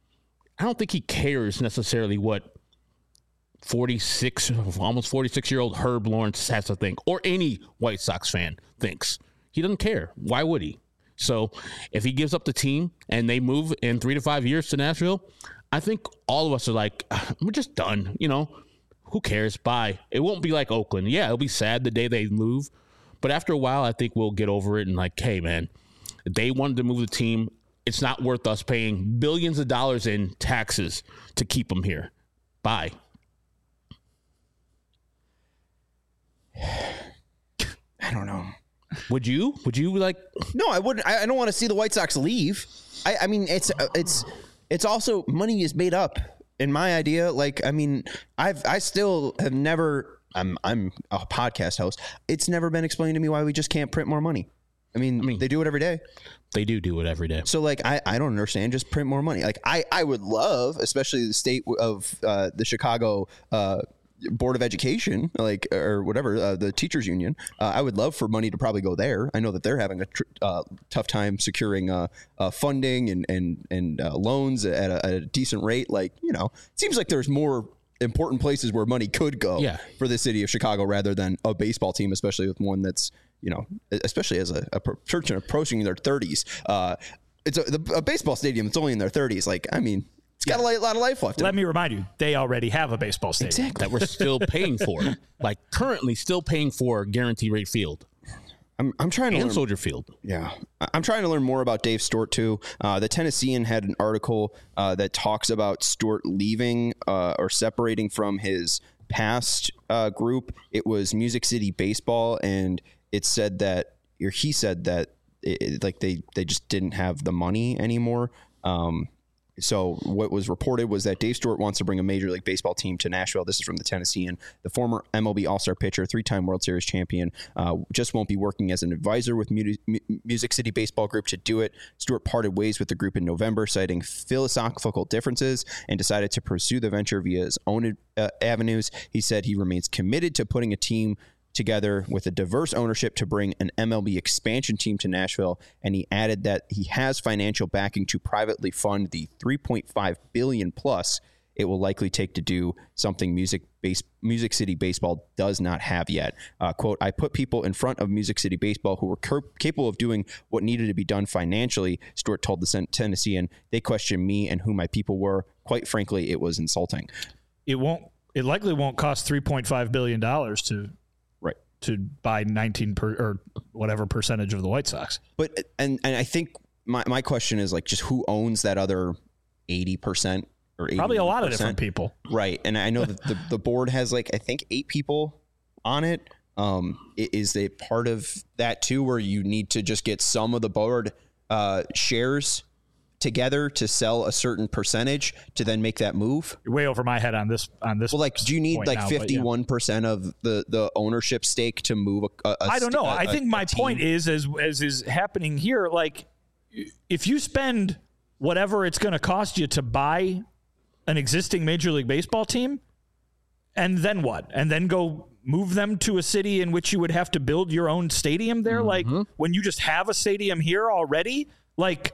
I don't think he cares necessarily what forty-six, almost forty-six-year-old Herb Lawrence has to think, or any White Sox fan thinks. He doesn't care. Why would he? So if he gives up the team and they move in three to five years to Nashville, I think all of us are like, we're just done. You know, who cares? Bye. It won't be like Oakland. Yeah, it'll be sad the day they move. But after a while, I think we'll get over it and like, hey, man, they wanted to move the team. It's not worth us paying billions of dollars in taxes to keep them here. Bye. I don't know. Would you? Would you like? No, I wouldn't. I, I don't want to see the White Sox leave. I, I mean, it's it's it's also money is made up in my idea. Like, I mean, I've I still have never. I'm I'm a podcast host. It's never been explained to me why we just can't print more money. I mean, I mean they do it every day. They do do it every day. So, like, I, I don't understand. Just print more money. Like, I, I would love, especially the state of uh, the Chicago uh, Board of Education, like, or whatever, uh, the teachers union. Uh, I would love for money to probably go there. I know that they're having a tr- uh, tough time securing uh, uh, funding and and and uh, loans at a, at a decent rate. Like, you know, it seems like there's more important places where money could go yeah. for the city of Chicago rather than a baseball team, especially with one that's, you know, especially as a, a person approaching their thirties. Uh, it's a, the, a baseball stadium that's only in their thirties. Like, I mean, it's got yeah. a lot of life left. Let me remind you, they already have a baseball stadium. Exactly. That we're still paying for. Like, currently still paying for Guaranteed Rate Field. I'm I'm trying to and learn, Soldier Field. Yeah, I'm trying to learn more about Dave Stewart too. Uh, the Tennessean had an article uh, that talks about Stewart leaving uh, or separating from his past uh, group. It was Music City Baseball, and it said that, or he said that, it, like they they just didn't have the money anymore. Um, So what was reported was that Dave Stewart wants to bring a Major League Baseball team to Nashville. This is from the Tennessean. The former M L B All-Star pitcher, three-time World Series champion, uh, just won't be working as an advisor with Mu- Music City Baseball Group to do it. Stewart parted ways with the group in November, citing philosophical differences, and decided to pursue the venture via his own uh, avenues. He said he remains committed to putting a team together with a diverse ownership to bring an M L B expansion team to Nashville, and he added that he has financial backing to privately fund the three point five billion dollars plus it will likely take to do something Music base, Music City Baseball does not have yet. Uh, quote, I put people in front of Music City Baseball who were cur- capable of doing what needed to be done financially, Stewart told the Tennessean. They questioned me and who my people were. Quite frankly, it was insulting. It won't. It likely won't cost three point five billion dollars to right to buy nineteen per, or whatever percentage of the White Sox. But and and I think my my question is like just who owns that other eighty percent or probably a lot of different people, right? And I know that the, the board has like I think eight people on it. Um, is a part of that too, where you need to just get some of the board uh, shares together to sell a certain percentage to then make that move? You're way over my head on this. On this, well, like, do you need like fifty-one percent yeah. of the, the ownership stake to move a? a I don't know. A, I think a, my a point is, as as is happening here, like if you spend whatever it's going to cost you to buy an existing Major League Baseball team, and then what? And then go move them to a city in which you would have to build your own stadium there? Mm-hmm. Like when you just have a stadium here already? Like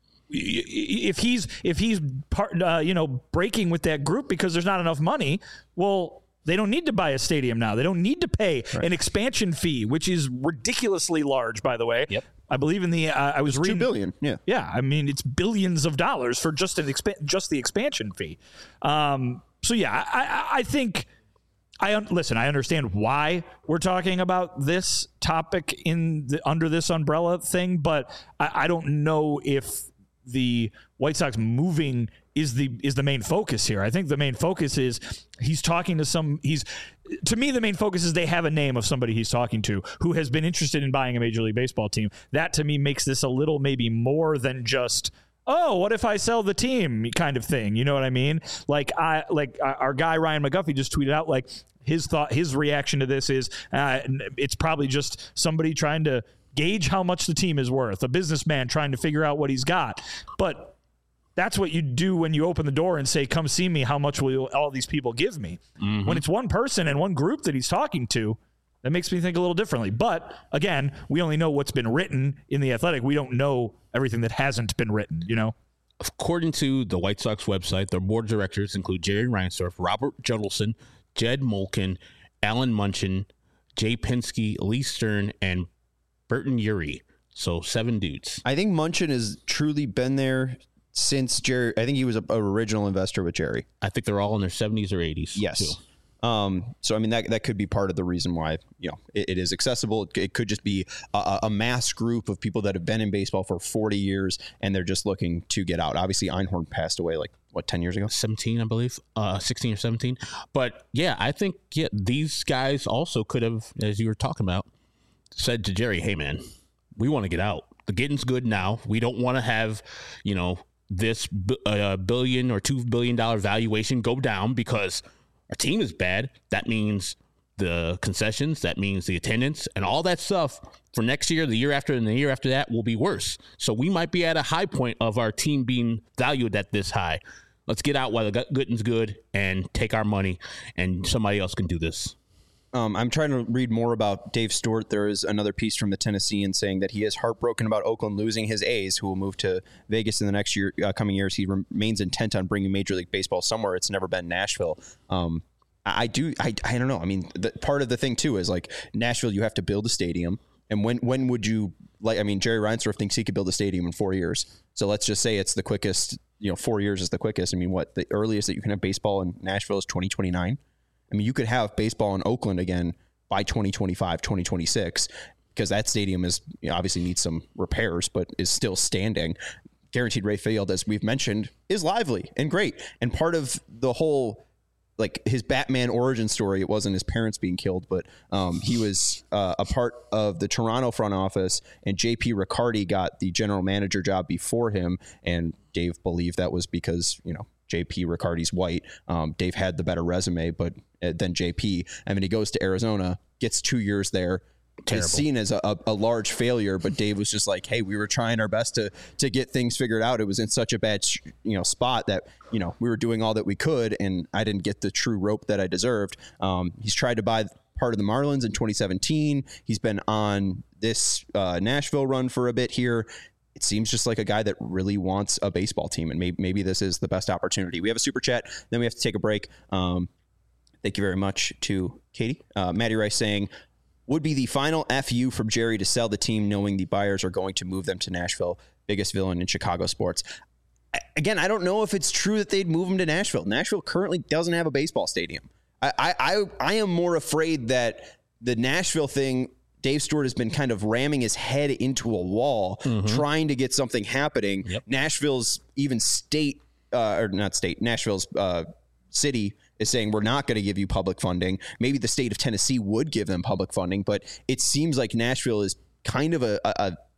if he's if he's part, uh, you know, breaking with that group because there's not enough money, well, they don't need to buy a stadium now. They don't need to pay right. an expansion fee, which is ridiculously large, by the way. Yep. I believe in the. Uh, I was reading two billion. Yeah, yeah. I mean, it's billions of dollars for just an expa- just the expansion fee. Um, so yeah, I, I, I think. I un- listen. I understand why we're talking about this topic in the, under this umbrella thing, but I, I don't know if the White Sox moving is the is the main focus here. I think the main focus is he's talking to some. He's to me the main focus is they have a name of somebody he's talking to who has been interested in buying a Major League Baseball team. That to me makes this a little maybe more than just, oh, what if I sell the team kind of thing. You know what I mean? Like I like our guy Ryan McGuffey just tweeted out like his thought, his reaction to this is uh, it's probably just somebody trying to gauge how much the team is worth, a businessman trying to figure out what he's got. But that's what you do when you open the door and say, come see me. How much will all these people give me? Mm-hmm. When it's one person and one group that he's talking to, that makes me think a little differently. But again, we only know what's been written in The Athletic. We don't know everything that hasn't been written, you know? According to the White Sox website, their board of directors include Jerry Reinsdorf, Robert Judelson, Jed Molken, Alan Munchin, Jay Pinsky, Lee Stern, and Burton Urie. So seven dudes. I think Munchin has truly been there since Jerry. I think he was an original investor with Jerry. I think they're all in their seventies or eighties. Yes. Too. Um, so, I mean, that that could be part of the reason why, you know, it, it is accessible. It, it could just be a, a mass group of people that have been in baseball for forty years and they're just looking to get out. Obviously, Einhorn passed away like, what, ten years ago? seventeen, I believe. Uh, sixteen or seventeen. But, yeah, I think yeah, these guys also could have, as you were talking about, said to Jerry, hey, man, we want to get out. The getting's good now. We don't want to have, you know, this uh, billion or two billion dollar valuation go down because our team is bad. That means the concessions, that means the attendance, and all that stuff for next year, the year after, and the year after that will be worse. So we might be at a high point of our team being valued at this high. Let's get out while the getting's good and take our money, and somebody else can do this. Um, I'm trying to read more about Dave Stewart. There is another piece from the Tennessean saying that he is heartbroken about Oakland losing his A's, who will move to Vegas in the next year, uh, coming years. He remains intent on bringing Major League Baseball somewhere. It's never been Nashville. Um, I, I do. I, I don't know. I mean, the, part of the thing too is like Nashville. You have to build a stadium, and when when would you like? I mean, Jerry Reinsdorf thinks he could build a stadium in four years. So let's just say it's the quickest. You know, four years is the quickest. I mean, what the earliest that you can have baseball in Nashville is twenty twenty-nine. I mean, you could have baseball in Oakland again by twenty twenty-five, twenty twenty-six, because that stadium is, you know, obviously needs some repairs, but is still standing. Guaranteed Rate Field, as we've mentioned, is lively and great. And part of the whole, like his Batman origin story, it wasn't his parents being killed, but um, he was uh, a part of the Toronto front office, and J P Riccardi got the general manager job before him. And Dave believed that was because, you know, J P Riccardi's white. Um, Dave had the better resume, but uh, than J P. I mean, he goes to Arizona, gets two years there, Terrible. Is seen as a, a, a large failure. But Dave was just like, "Hey, we were trying our best to to get things figured out. It was in such a bad, you know, spot that, you know, we were doing all that we could, and I didn't get the true rope that I deserved." Um, he's tried to buy part of the Marlins in twenty seventeen. He's been on this uh, Nashville run for a bit here. It seems just like a guy that really wants a baseball team, and maybe, maybe this is the best opportunity. We have a super chat, then we have to take a break. Um, thank you very much to Katie. Uh, Maddie Rice saying, would be the final F U from Jerry to sell the team knowing the buyers are going to move them to Nashville, biggest villain in Chicago sports. I, again, I don't know if it's true that they'd move him to Nashville. Nashville currently doesn't have a baseball stadium. I, I, I, I am more afraid that the Nashville thing, Dave Stewart has been kind of ramming his head into a wall, mm-hmm. trying to get something happening. Yep. Nashville's even state, uh, or not state, Nashville's uh, city is saying, we're not going to give you public funding. Maybe the state of Tennessee would give them public funding, but it seems like Nashville is kind of a, a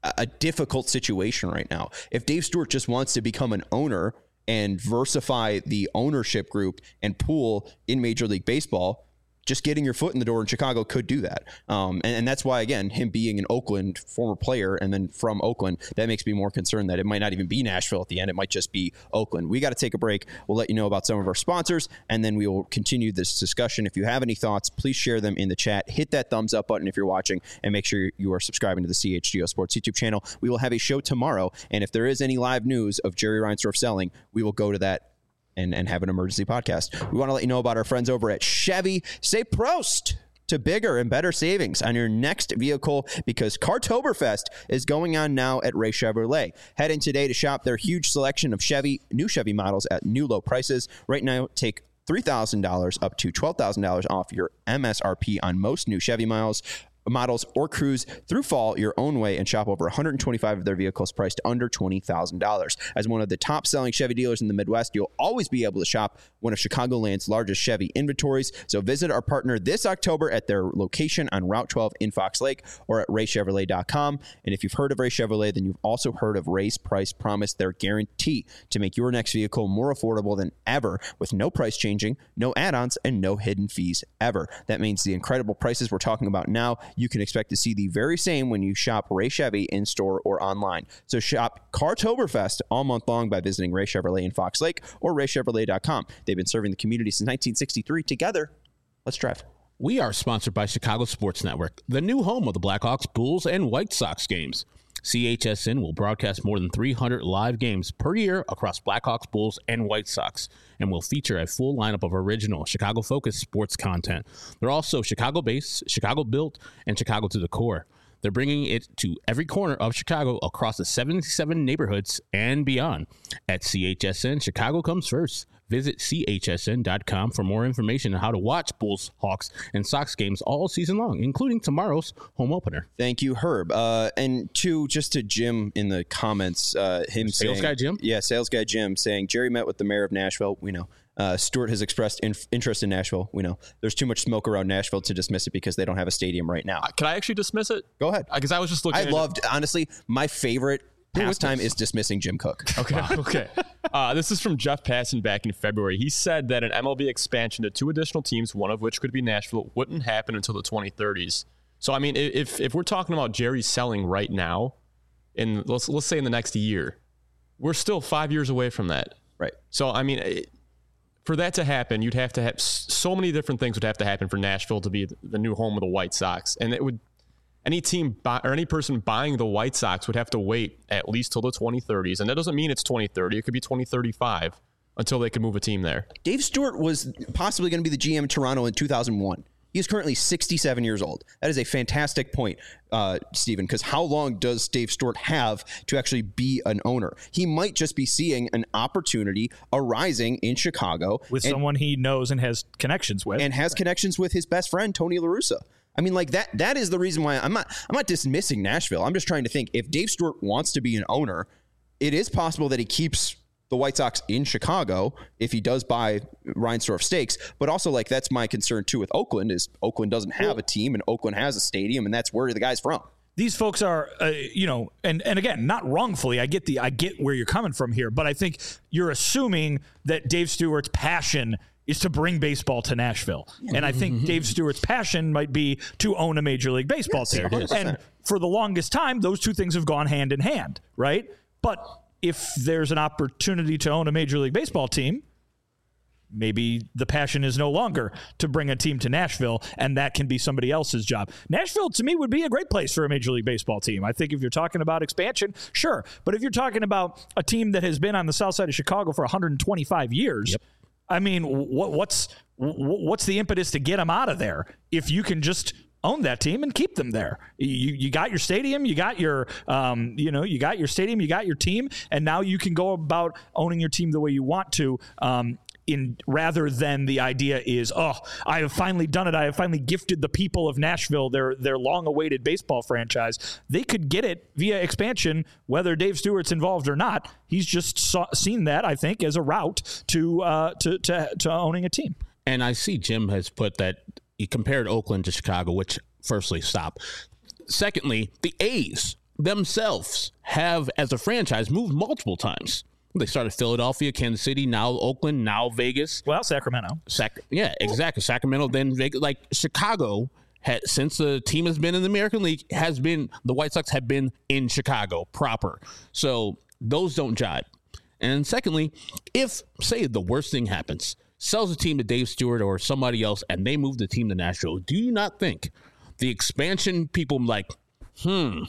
a, a difficult situation right now. If Dave Stewart just wants to become an owner and diversify the ownership group and pool in Major League Baseball, just getting your foot in the door in Chicago could do that. Um, and, and that's why, again, him being an Oakland former player and then from Oakland, that makes me more concerned that it might not even be Nashville at the end. It might just be Oakland. We got to take a break. We'll let you know about some of our sponsors, and then we will continue this discussion. If you have any thoughts, please share them in the chat. Hit that thumbs up button if you're watching, and make sure you are subscribing to the C H G O Sports YouTube channel. We will have a show tomorrow, and if there is any live news of Jerry Reinsdorf selling, we will go to that and, and have an emergency podcast. We want to let you know about our friends over at Chevy. Say Prost to bigger and better savings on your next vehicle, because Cartoberfest is going on now at Ray Chevrolet. Head in today to shop their huge selection of Chevy, new Chevy models at new low prices. Right now, take three thousand dollars up to twelve thousand dollars off your M S R P on most new Chevy miles. models or cruise through fall your own way and shop over one hundred twenty-five of their vehicles priced under twenty thousand dollars. As one of the top selling Chevy dealers in the Midwest, you'll always be able to shop one of Chicagoland's largest Chevy inventories. So visit our partner this October at their location on Route twelve in Fox Lake or at ray chevrolet dot com. And if you've heard of Ray Chevrolet, then you've also heard of Ray's Price Promise, their guarantee to make your next vehicle more affordable than ever, with no price changing, no add-ons, and no hidden fees ever. That means the incredible prices we're talking about now, you can expect to see the very same when you shop Ray Chevy in store or online. So shop Cartoberfest all month long by visiting Ray Chevrolet in Fox Lake or ray chevrolet dot com. They've been serving the community since nineteen sixty-three. Together, let's drive. We are sponsored by Chicago Sports Network, the new home of the Blackhawks, Bulls, and White Sox games. C H S N will broadcast more than three hundred live games per year across Blackhawks, Bulls, and White Sox, and will feature a full lineup of original Chicago-focused sports content. They're also Chicago-based, Chicago-built, and Chicago to the core. They're bringing it to every corner of Chicago across the seventy-seven neighborhoods and beyond. At C H S N, Chicago comes first. Visit C H S N dot com for more information on how to watch Bulls, Hawks, and Sox games all season long, including tomorrow's home opener. Thank you, Herb. Uh, and two, just to Jim in the comments, uh, him sales saying... Sales guy Jim? Yeah, sales guy Jim saying, Jerry met with the mayor of Nashville. We know. Uh, Stewart has expressed in- interest in Nashville. We know. There's too much smoke around Nashville to dismiss it because they don't have a stadium right now. Uh, can I actually dismiss it? Go ahead. Because I was just looking I at loved, it. honestly, my favorite pastime is dismissing Jim Cook. Okay. Wow. Okay. Uh, this is from Jeff Passan back in February. He said that an M L B expansion to two additional teams, one of which could be Nashville, wouldn't happen until the twenty thirties. So, I mean, if if we're talking about Jerry selling right now, in let's let's say in the next year, we're still five years away from that. Right. So, I mean, it, for that to happen, you'd have to have so many different things would have to happen for Nashville to be the new home of the White Sox, and it would. Any team buy, or any person buying the White Sox would have to wait at least till the twenty thirties. And that doesn't mean it's twenty thirty. It could be twenty thirty-five until they can move a team there. Dave Stewart was possibly going to be the G M in Toronto in two thousand one. He is currently sixty-seven years old. That is a fantastic point, uh, Stephen, because how long does Dave Stewart have to actually be an owner? He might just be seeing an opportunity arising in Chicago. With and, someone he knows and has connections with. And has connections with his best friend, Tony La Russa. I mean, like that, that is the reason why I'm not, I'm not dismissing Nashville. I'm just trying to think, if Dave Stewart wants to be an owner, it is possible that he keeps the White Sox in Chicago if he does buy Reinsdorf stakes. But also, like, that's my concern too with Oakland, is Oakland doesn't have a team and Oakland has a stadium, and that's where the guy's from. These folks are, uh, you know, and, and again, not wrongfully. I get the, I get where you're coming from here, but I think you're assuming that Dave Stewart's passion is to bring baseball to Nashville. And I think Dave Stewart's passion might be to own a Major League Baseball yes, team. one hundred percent. And for the longest time, those two things have gone hand in hand, right? But if there's an opportunity to own a Major League Baseball team, maybe the passion is no longer to bring a team to Nashville, and that can be somebody else's job. Nashville, to me, would be a great place for a Major League Baseball team. I think if you're talking about expansion, sure. But if you're talking about a team that has been on the south side of Chicago for one hundred twenty-five years, yep. I mean, what, what's what's the impetus to get them out of there if you can just own that team and keep them there? You you got your stadium, you got your um, you know, you got your stadium, you got your team, and now you can go about owning your team the way you want to. Um, in rather than the idea is, oh, I have finally done it. I have finally gifted the people of Nashville their their long-awaited baseball franchise. They could get it via expansion, whether Dave Stewart's involved or not. He's just saw, seen that, I think, as a route to uh, to, to to owning a team. And I see Jim has put that he compared Oakland to Chicago, which firstly, stop. Secondly, the A's themselves have, as a franchise, moved multiple times. They started Philadelphia, Kansas City, now Oakland, now Vegas. Well, Sacramento. Sac- yeah, exactly. Sacramento, then Vegas. Like Chicago, had, since the team has been in the American League, has been the White Sox have been in Chicago proper. So those don't jibe. And secondly, if, say, the worst thing happens, sells the team to Dave Stewart or somebody else, and they move the team to Nashville, do you not think the expansion people like, hmm,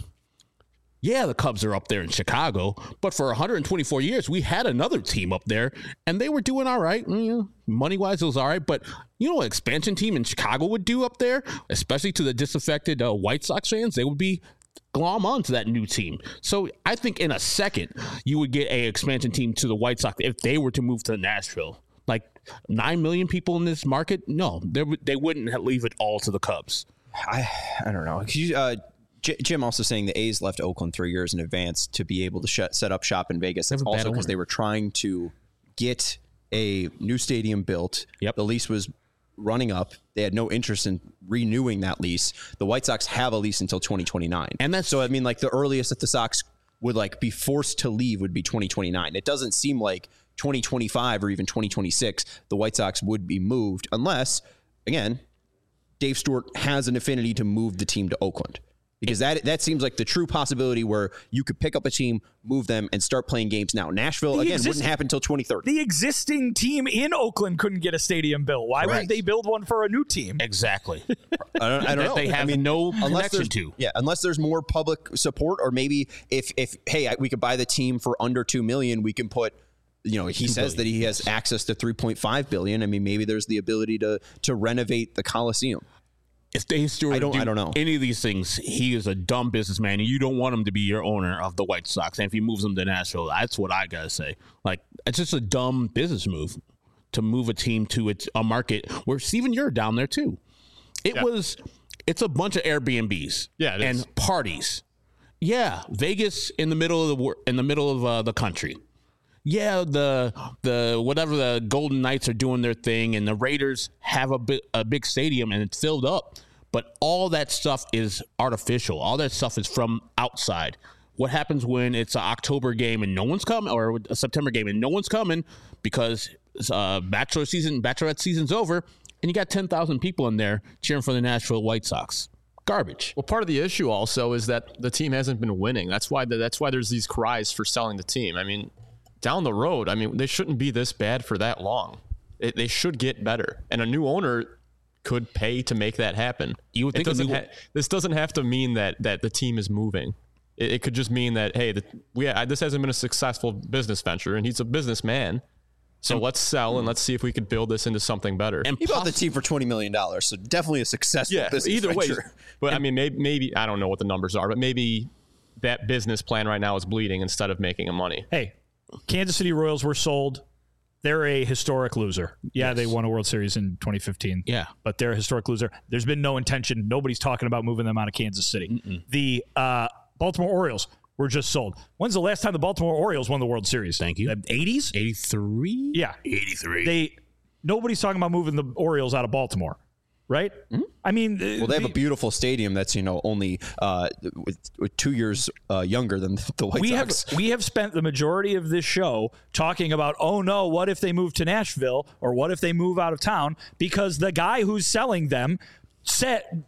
yeah, the Cubs are up there in Chicago, but for one hundred twenty-four years, we had another team up there, and they were doing all right. Mm, money-wise, it was all right. But you know what expansion team in Chicago would do up there, especially to the disaffected uh, White Sox fans? They would be glom on to that new team. So I think in a second, you would get a expansion team to the White Sox if they were to move to Nashville. Like nine million people in this market? No, they, they wouldn't leave it all to the Cubs. I I don't know. Could you, uh, J- Jim also saying the A's left Oakland three years in advance to be able to sh- set up shop in Vegas. That's also because they were trying to get a new stadium built. Yep. The lease was running up. They had no interest in renewing that lease. The White Sox have a lease until twenty twenty-nine. And that's so, I mean, like the earliest that the Sox would like be forced to leave would be twenty twenty-nine. It doesn't seem like twenty twenty-five or even twenty twenty-six, the White Sox would be moved unless, again, Dave Stewart has an affinity to move the team to Oakland. Because that that seems like the true possibility where you could pick up a team, move them, and start playing games now. Nashville, The again, exist- wouldn't happen until twenty thirty. The existing team in Oakland couldn't get a stadium built. Why Correct. would they build one for a new team? Exactly. I don't, I don't know. They have I mean, no unless connection there's- to. Yeah, unless there's more public support, or maybe if, if hey, I- we could buy the team for under two million dollars, we can put, you know, he says that he has access to three point five billion dollars. I mean, maybe there's the ability to to renovate the Coliseum. If Dave Stewart I don't- do I don't know. any of these things, he is a dumb businessman, and you don't want him to be your owner of the White Sox. And if he moves them to Nashville, that's what I gotta say. Like, it's just a dumb business move to move a team to its a market where Steven, you're down there too. It Yeah. was, it's a bunch of Airbnbs, Yeah, it and is. parties. Yeah, Vegas in the middle of the wor- in the middle of uh, the country. Yeah, the the whatever the Golden Knights are doing their thing, and the Raiders have a big a big stadium and it's filled up. But all that stuff is artificial. All that stuff is from outside. What happens when it's an October game and no one's coming, or a September game and no one's coming because uh, bachelor season, bachelorette season's over, and you got ten thousand people in there cheering for the Nashville White Sox? Garbage. Well, part of the issue also is that the team hasn't been winning. That's why the, that's why there's these cries for selling the team. I mean, down the road, I mean, they shouldn't be this bad for that long. It, they should get better, and a new owner could pay to make that happen. You would It think a doesn't new- ha- this doesn't have to mean that that the team is moving. It, it could just mean that hey, the, we I, this hasn't been a successful business venture, and he's a businessman. So let's sell and let's see if we could build this into something better. And He bought the poss- team for twenty million dollars, so definitely a successful yeah, business either way. venture. But I mean, maybe, maybe I don't know what the numbers are, but maybe that business plan right now is bleeding instead of making him money. Hey, Kansas City Royals were sold. They're a historic loser. Yeah, Yes. they won a World Series in twenty fifteen. Yeah. But they're a historic loser. There's been no intention. Nobody's talking about moving them out of Kansas City. Mm-mm. The uh, Baltimore Orioles were just sold. When's the last time the Baltimore Orioles won the World Series? Thank you. The eighties? eighty-three? Yeah. eighty-three. They nobody's talking about moving the Orioles out of Baltimore, right? Mm-hmm. I mean, Well, they have a beautiful stadium that's, you know, only uh, with, with two years uh, younger than the White we Sox. have we have spent the majority of this show talking about, oh no, what if they move to Nashville, or what if they move out of town? Because the guy who's selling them said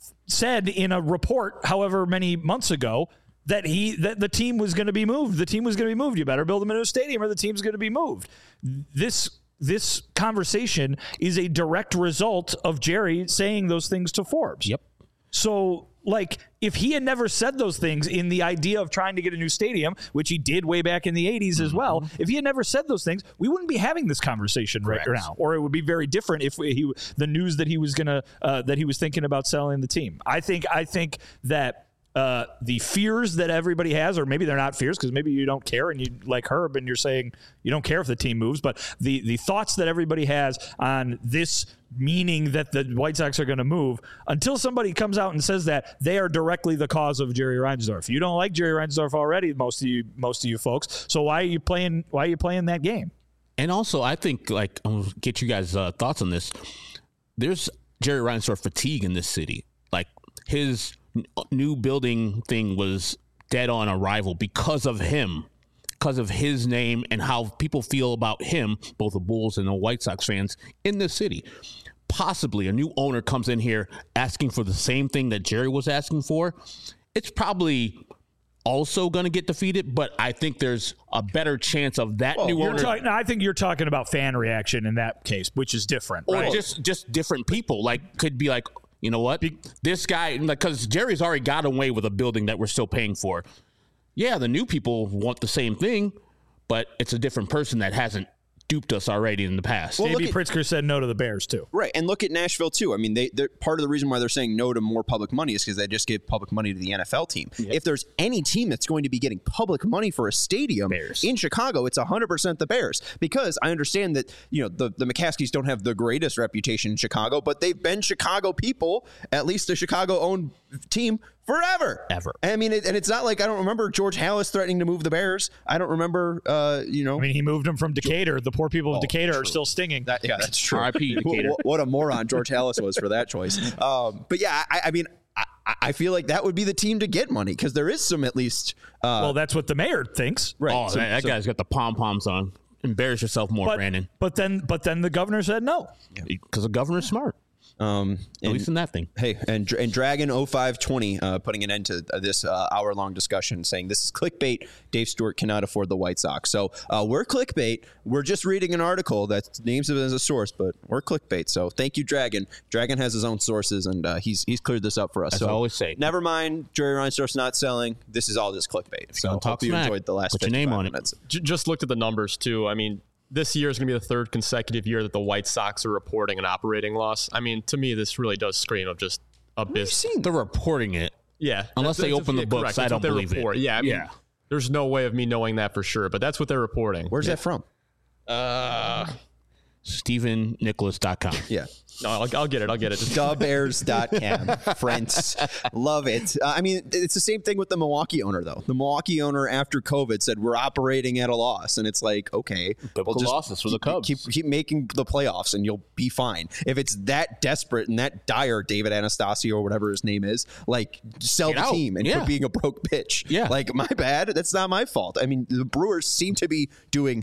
said in a report, however many months ago, that he that the team was going to be moved. The team was going to be moved. You better build them a new stadium, or the team's going to be moved. This this conversation is a direct result of Jerry saying those things to Forbes. Yep. So, like, if he had never said those things in the idea of trying to get a new stadium, which he did way back in the eighties as well, if he had never said those things, we wouldn't be having this conversation Correct. right now, or it would be very different if he the news that he was gonna uh, that he was thinking about selling the team. I think I think that. Uh, the fears that everybody has, or maybe they're not fears because maybe you don't care and you like Herb and you're saying you don't care if the team moves, but the, the thoughts that everybody has on this meaning that the White Sox are going to move, until somebody comes out and says that, they are directly the cause of Jerry Reinsdorf. You don't like Jerry Reinsdorf already, most of you most of you folks. So why are you playing why are you playing that game? And also, I think, like, I'll get you guys' uh, thoughts on this. There's Jerry Reinsdorf fatigue in this city. Like, his n- new building thing was dead on arrival because of him, because of his name and how people feel about him, both the Bulls and the White Sox fans in the city. Possibly a new owner comes in here asking for the same thing that Jerry was asking for. It's probably also going to get defeated, but I think there's a better chance of that well, new you're owner. Talk, no, I think you're talking about fan reaction in that case, which is different, or right? just just different people. Like, could be like, you know what, be, this guy, because Jerry's already got away with a building that we're still paying for. Yeah, the new people want the same thing, but it's a different person that hasn't duped us already in the past. Well, J B at, Pritzker said no to the Bears too. Right, and look at Nashville too. I mean, they they're, part of the reason why they're saying no to more public money is because they just give public money to the N F L team. Yep. If there's any team that's going to be getting public money for a stadium Bears. in Chicago, it's one hundred percent the Bears. Because I understand that, you know, the, the McCaskies don't have the greatest reputation in Chicago, but they've been Chicago people, at least a Chicago-owned team, forever. Ever. I mean, it, and it's not like I don't remember George Halas threatening to move the Bears. I don't remember, uh, you know. I mean, he moved them from Decatur. The poor people of Oh, Decatur true. are still stinging. That, yeah, that's true. R I P Decatur. what, what a moron George Halas was for that choice. Um, but yeah, I, I mean, I, I feel like that would be the team to get money because there is some at least. Uh, well, that's what the mayor thinks. right. Oh, some- that, that some- guy's got the pom poms on. Embarrass yourself more, But, Brandon. but then, but then the governor said no. Because the governor's smart. Um, At and, least in that thing. hey, and and Dragon oh five twenty uh, putting an end to this uh, hour long discussion, saying this is clickbait. Dave Stewart cannot afford the White Sox. So uh, we're clickbait. We're just reading an article that names it as a source, but we're clickbait. So thank you, Dragon. Dragon has his own sources, and uh, he's he's cleared this up for us. As so I always say. never mind. Jerry Reinsdorf's not selling. This is all just clickbait. So gonna talk hope you smack, enjoyed the last put your name fifty-five on it. minutes. J- just looked at the numbers too. I mean, this year is going to be the third consecutive year that the White Sox are reporting an operating loss. I mean, to me, this really does scream of just abyss. They're reporting it. Yeah, Unless they open the books, correct. I That's don't what they believe it. report. Yeah, I mean, Yeah. there's no way of me knowing that for sure, but that's what they're reporting. Where's that from? Uh, Stephen Nicholas dot com. Yeah. no, I'll, I'll get it. I'll get it. Just the bears dot com. Friends. Love it. Uh, I mean, it's the same thing with the Milwaukee owner, though. The Milwaukee owner, after COVID, said, we're operating at a loss. And it's like, okay. Biblical just losses for the keep- Cubs. Keep, keep making the playoffs, and you'll be fine. If it's that desperate and that dire, David Anastasio or whatever his name is, like, sell Get the out. team and Yeah. quit being a broke bitch. Yeah. Like, my bad. That's not my fault. I mean, the Brewers seem to be doing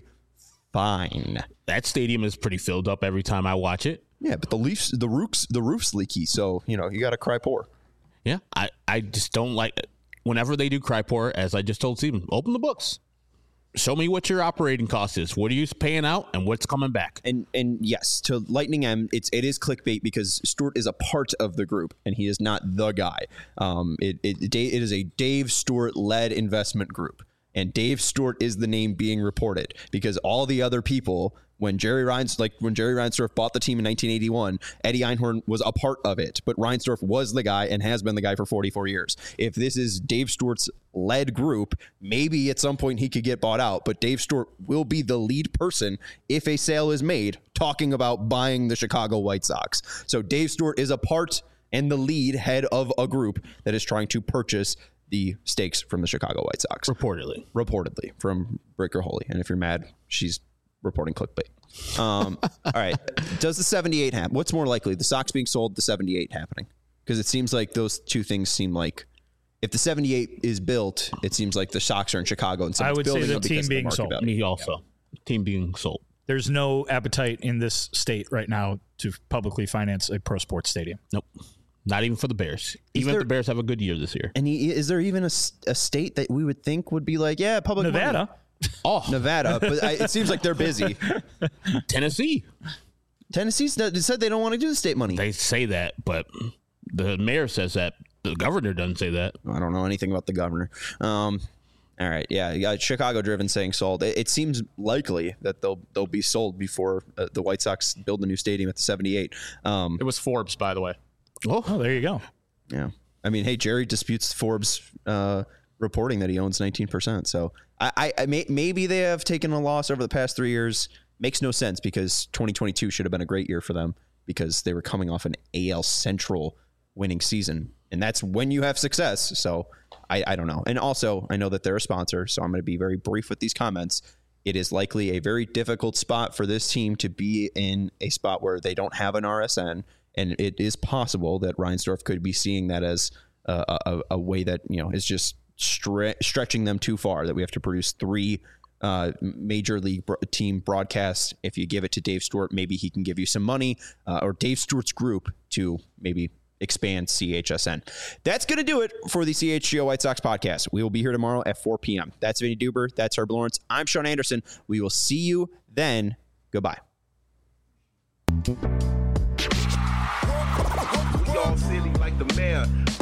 fine. That stadium is pretty filled up every time I watch it. Yeah, but the Leafs, the roofs, the roof's leaky, so you know you got to cry poor. Yeah. I, I just don't like whenever they do cry poor, as I just told Stephen, open the books. Show me what your operating cost is. What are you paying out and what's coming back? And and yes, to Lightning M, it's it is clickbait because Stewart is a part of the group and he is not the guy. Um, it it it is a Dave Stewart led investment group, and Dave Stewart is the name being reported because all the other people. When Jerry Reins, like when Jerry Reinsdorf bought the team in nineteen eighty-one, Eddie Einhorn was a part of it, but Reinsdorf was the guy and has been the guy for forty-four years. If this is Dave Stewart's led group, maybe at some point he could get bought out, but Dave Stewart will be the lead person if a sale is made talking about buying the Chicago White Sox. So Dave Stewart is a part and the lead head of a group that is trying to purchase the stakes from the Chicago White Sox. Reportedly. Reportedly from Breaker Holy. And if you're mad, she's reporting clickbait. Um, all right. Does the seventy-eight happen? What's more likely, the Sox being sold, the seventy-eight happening? Because it seems like those two things seem like if the seventy-eight is built, it seems like the Sox are in Chicago and I someone's would say building the them because team of the being market sold. value. Me also. Team being sold. There's no appetite in this state right now to publicly finance a pro sports stadium. Nope. Not even for the Bears. Even there- if the Bears have a good year this year. And he, is there even a, s- a state that we would think would be like, yeah, public money? Nevada. Oh, Nevada, but I, it seems like they're busy. Tennessee. Tennessee's not- said they don't want to do the state money. They say that, but the mayor says that. The governor doesn't say that. I don't know anything about the governor. Um, all right, yeah, you got Chicago Driven saying sold. It, it seems likely that they'll they'll be sold before uh, the White Sox build a new stadium at the seventy-eight. Um, it was Forbes, by the way. Oh, there you go. yeah, I mean, hey, Jerry disputes Forbes uh, reporting that he owns nineteen percent. So I, I, I may, maybe they have taken a loss over the past three years. Makes no sense because twenty twenty-two should have been a great year for them because they were coming off an A L Central winning season. And that's when you have success. So I, I don't know. And also, I know that they're a sponsor, so I'm going to be very brief with these comments. It is likely a very difficult spot for this team to be in a spot where they don't have an R S N. And it is possible that Reinsdorf could be seeing that as a, a, a way that, you know, is just stre- stretching them too far that we have to produce three uh, major league bro- team broadcasts. If you give it to Dave Stewart, maybe he can give you some money uh, or Dave Stewart's group to maybe expand C H S N. That's going to do it for the C H G O White Sox podcast. We will be here tomorrow at four p.m. That's Vinny Duber. That's Herb Lawrence. I'm Sean Anderson. We will see you then. Goodbye. We all silly like the mayor.